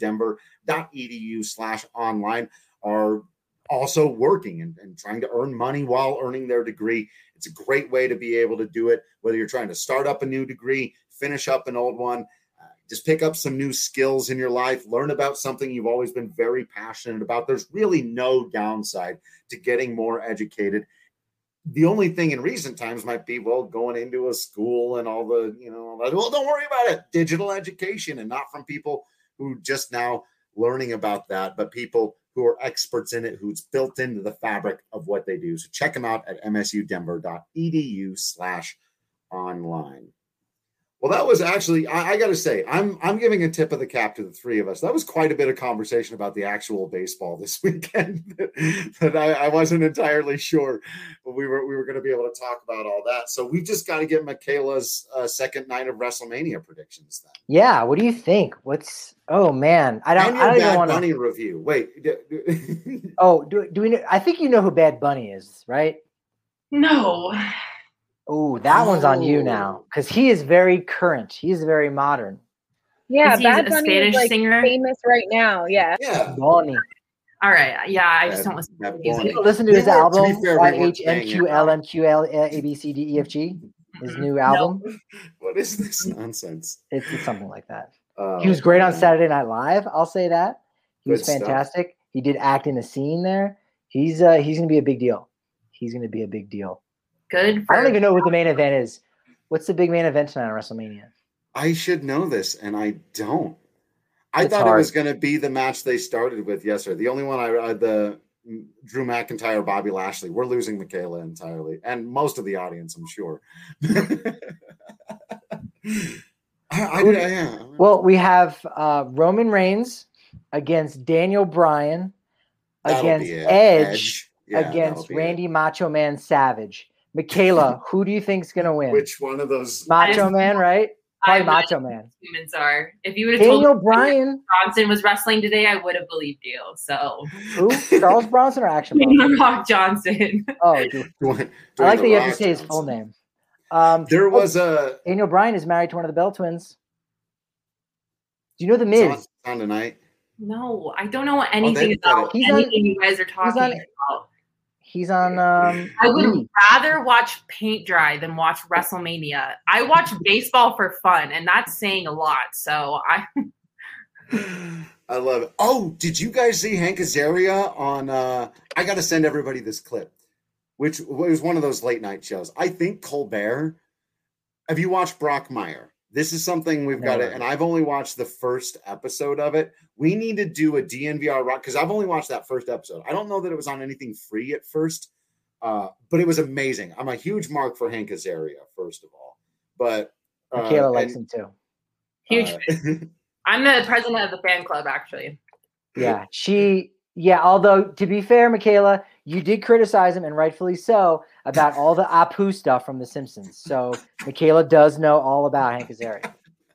msudenver.edu/online are also working and trying to earn money while earning their degree. It's a great way to be able to do it, whether you're trying to start up a new degree, finish up an old one, just pick up some new skills in your life, learn about something you've always been very passionate about. There's really no downside to getting more educated. The only thing in recent times might be, well, going into a school and all the, well, don't worry about it. Digital education, and not from people who just now learning about that, but people who are experts in it, who's built into the fabric of what they do. So check them out at msudenver.edu/online. Well, that was actually, I got to say, I'm giving a tip of the cap to the three of us. That was quite a bit of conversation about the actual baseball this weekend that I wasn't entirely sure, but we were going to be able to talk about all that. So we just got to get Michaela's second night of WrestleMania predictions then. Yeah, what do you think? Oh man, I don't even want to. Bunny review. Wait. Oh, do we know? I think you know who Bad Bunny is, right? No. Oh, that one's on you now, because he is very current. He's very modern. Yeah, Is he Bad a Bunny Spanish is like singer? famous right now. Yeah. Yeah. Bonnie. All right. Yeah, I just don't listen to Bad music. Bunny. Listen to his We weren't- to be album, fair, we weren't saying it. YHNQLMQLABCDEFG. His new album. What is this nonsense? It's something like that. He was great on Saturday Night Live. I'll say that. He was Good stuff. fantastic. He did act in a scene there. He's going to be a big deal. He's going to be a big deal. Good. I don't even know what the main event is. What's the big main event tonight on WrestleMania? I should know this, and I don't. I It's thought hard. it was going to be the match they started with yesterday. The only one the Drew McIntyre, Bobby Lashley. We're losing Michaela entirely, and most of the audience, I'm sure. Yeah. Well, we have Roman Reigns against Daniel Bryan, That'll against be it. Edge, Yeah, against that'll be Randy Macho Man Savage. Michaela, who do you think's going to win? Which one of those? Macho Man, right? Probably I'm Macho Man. Humans are. If you would have told Daniel me Bryan. Johnson was wrestling today, I would have believed you. So Who? Charles Bronson or Action Bronson? The Rock Johnson. Oh, dude. I like that you have to say his full name. There was a Daniel Bryan is married to one of the Bell twins. Do you know the Miz? on tonight. No, I don't know anything they've got about it. He's on- anything you guys are talking on- about. He's on. I would E! rather watch paint dry than watch WrestleMania. I watch baseball for fun, and that's saying a lot. So I love it. Oh, did you guys see Hank Azaria on? I got to send everybody this clip, which was one of those late night shows. I think Colbert. Have you watched Brock Meyer? this is something we've got to, and I've only watched the first episode of it. We need to do a DNVR rock because I've only watched that first episode. I don't know that it was on anything free at first, but it was amazing. I'm a huge mark for Hank Azaria, first of all. But Michaela likes him too. Huge. I'm the president of the fan club, actually. Yeah. Although to be fair, Michaela, you did criticize him, and rightfully so, about all the Apu stuff from The Simpsons. So Michaela does know all about Hank Azaria.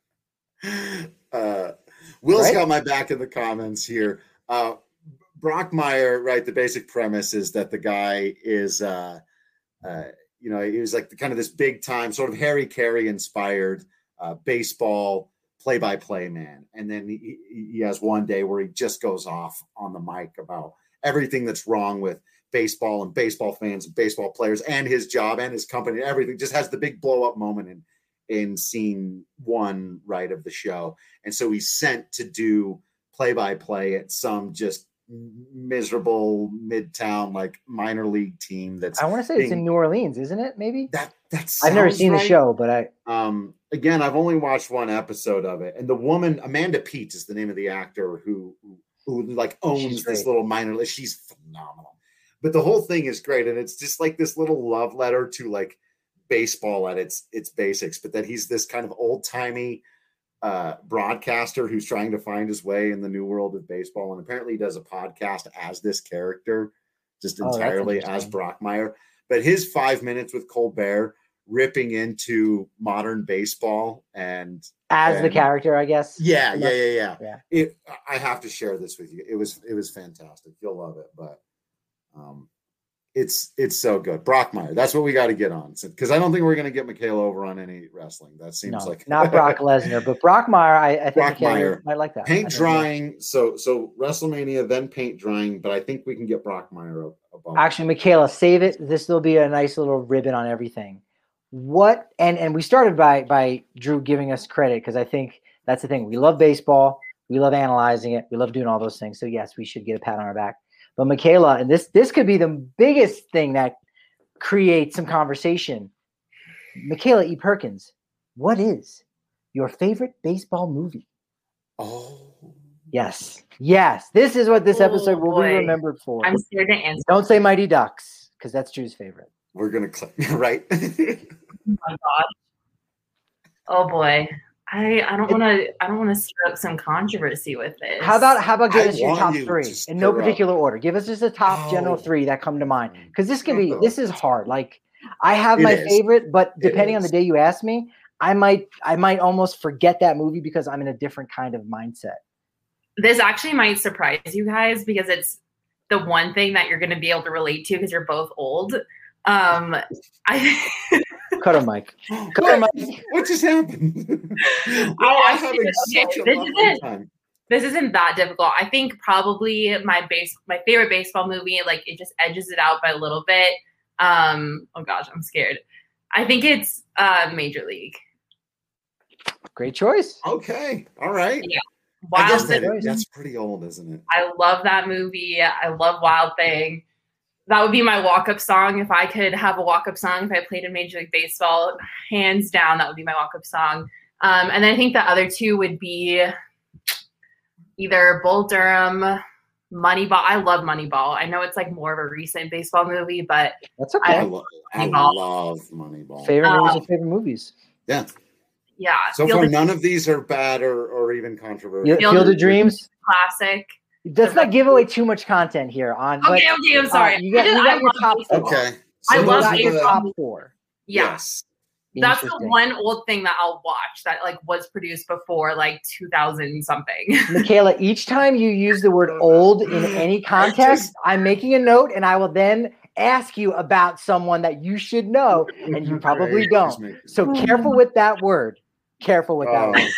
Will's got my back in the comments here. Brockmire, right? The basic premise is that the guy is, he was like kind of this big time, sort of Harry Carey inspired baseball play-by-play man. And then he has one day where he just goes off on the mic about everything that's wrong with baseball and baseball fans and baseball players and his job and his company and everything. Just has the big blow-up moment in scene 1, right, of the show. And so he's sent to do play-by-play at some just miserable midtown like minor league team. That's I want to say it's in New Orleans, isn't it? Maybe that's I've never seen the show, but again, I've only watched one episode of it. And the woman, Amanda Peet, is the name of the actor who like owns this little minor league. She's phenomenal. But the whole thing is great, and it's just like this little love letter to like baseball at its basics. But that he's this kind of old timey broadcaster who's trying to find his way in the new world of baseball, and apparently he does a podcast as this character, just entirely as Brockmire. But his 5 minutes with Colbert ripping into modern baseball and as the character, I guess. Yeah. I have to share this with you. It was fantastic. You'll love it, but it's so good. Brockmire, that's what we got to get on, because I don't think we're going to get Michaela over on any wrestling. That seems like not Brock Lesnar, but Brockmire. I think Brockmire. I like that. Paint drying. So WrestleMania, then paint drying, but I think we can get Brockmire above. Actually, Michaela, save it. This will be a nice little ribbon on everything. What and we started by Drew giving us credit, because I think that's the thing. We love baseball. We love analyzing it. We love doing all those things. So yes, we should get a pat on our back. But Michaela, and this could be the biggest thing that creates some conversation. Michaela E. Perkins, what is your favorite baseball movie? Oh. Yes. This is what this episode will be remembered for. I'm scared to answer. Don't say Mighty Ducks, because that's Drew's favorite. We're gonna click right. Oh my God. Oh boy. I don't want to stir up some controversy with this. How about give us your top 3 in no particular order? Give us just the top general 3 that come to mind, because this is hard. Like I have my favorite, but depending on the day you ask me, I might almost forget that movie because I'm in a different kind of mindset. This actually might surprise you guys, because it's the one thing that you're going to be able to relate to because you're both old. Cut him, Mike. What just happened? This isn't that difficult. I think probably my favorite baseball movie, like it just edges it out by a little bit. Oh gosh, I'm scared. I think it's Major League. Great choice. Okay. All right. Yeah. I guess that's pretty old, isn't it? I love that movie. I love Wild Thing. That would be my walk-up song. If I could have a walk-up song, if I played in Major League Baseball, hands down, that would be my walk-up song. And then I think the other 2 would be either Bull Durham, Moneyball. I love Moneyball. I know it's like more of a recent baseball movie, but that's okay. I love Moneyball. Favorite movies or favorite movies? Yeah. Yeah. So far, none of these are bad or even controversial. Field of Dreams, classic. Let's not give away too much content here. Okay, I'm sorry. You got your top 4. Okay. So I love your top 4. Yes. That's the one old thing that I'll watch that like was produced before like 2000 something. Michaela, each time you use the word old in any context, I'm making a note, and I will then ask you about someone that you should know, and you probably don't. So careful with that word. Careful with that word.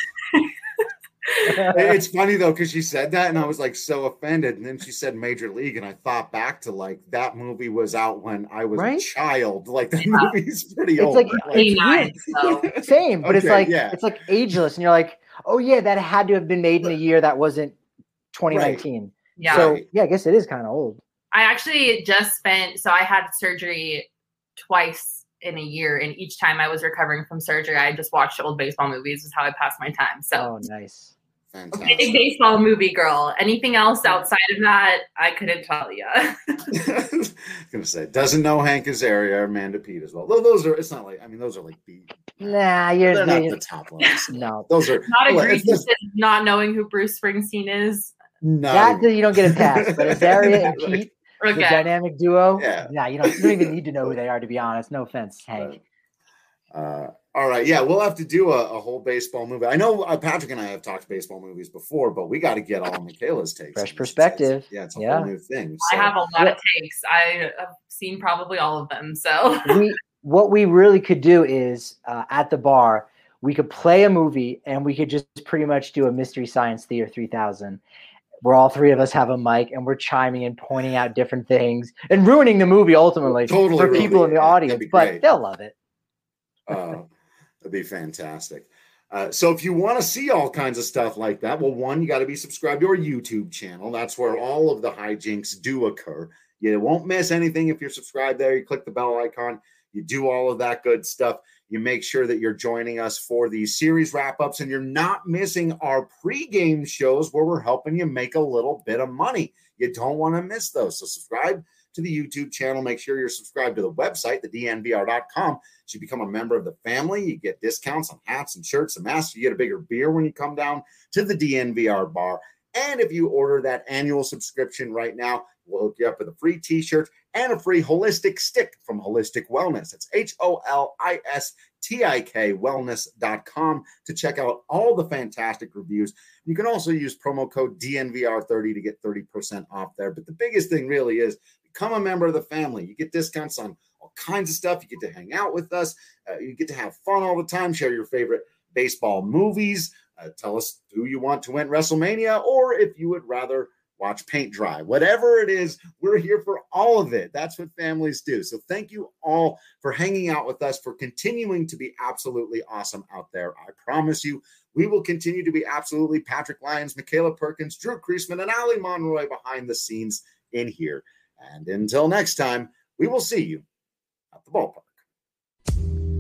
It's funny though, because she said that and I was like so offended, and then she said Major League, and I thought back to like that movie was out when I was a child. Like that movie's pretty old. It's like 89, same, but it's like ageless, and you're like, oh yeah, that had to have been made in a year that wasn't 2019. Right. Yeah. So yeah, I guess it is kind of old. I actually I had surgery twice in a year. And each time I was recovering from surgery, I just watched old baseball movies is how I passed my time. So Oh, nice. Fantastic. Big baseball movie girl. Anything else outside of that, I couldn't tell you. I was gonna say, doesn't know Hank Azaria or Amanda Peet as well. Those are, it's not like, I mean, those are like Nah, they're not the top ones. No, those are not egregious. Not knowing who Bruce Springsteen is. That you don't get a pass. But Azaria and Pete, the dynamic duo. Yeah, you don't even need to know who they are, to be honest. No offense, Hank. All right, yeah, we'll have to do a whole baseball movie. I know Patrick and I have talked baseball movies before, but we got to get all Michaela's takes. Fresh perspective. Yeah, it's a whole new thing. So. I have a lot of takes. I have seen probably all of them. So what we really could do is at the bar, we could play a movie and we could just pretty much do a Mystery Science Theater 3000 where all three of us have a mic and we're chiming and pointing out different things and ruining the movie ultimately for people in the audience, but they'll love it. That'd be fantastic. So if you want to see all kinds of stuff like that, well, one, you got to be subscribed to our YouTube channel. That's where all of the hijinks do occur. You won't miss anything if you're subscribed there. You click the bell icon. You do all of that good stuff. You make sure that you're joining us for these series wrap-ups, and you're not missing our pregame shows where we're helping you make a little bit of money. You don't want to miss those. So subscribe to the YouTube channel. Make sure you're subscribed to the website, thednvr.com. So you become a member of the family. You get discounts on hats and shirts and masks. You get a bigger beer when you come down to the DNVR bar. And if you order that annual subscription right now, we'll hook you up with a free t-shirt and a free holistic stick from Holistic Wellness. It's HOLISTIK wellness.com to check out all the fantastic reviews. You can also use promo code DNVR30 to get 30% off there. But the biggest thing really is become a member of the family. You get discounts on all kinds of stuff. You get to hang out with us. You get to have fun all the time, share your favorite baseball movies. Tell us who you want to win WrestleMania, or if you would rather watch paint dry. Whatever it is, we're here for all of it. That's what families do. So thank you all for hanging out with us, for continuing to be absolutely awesome out there. I promise you, we will continue to be absolutely Patrick Lyons, Michaela Perkins, Drew Kreisman, and Ali Monroy behind the scenes in here. And until next time, we will see you at the ballpark.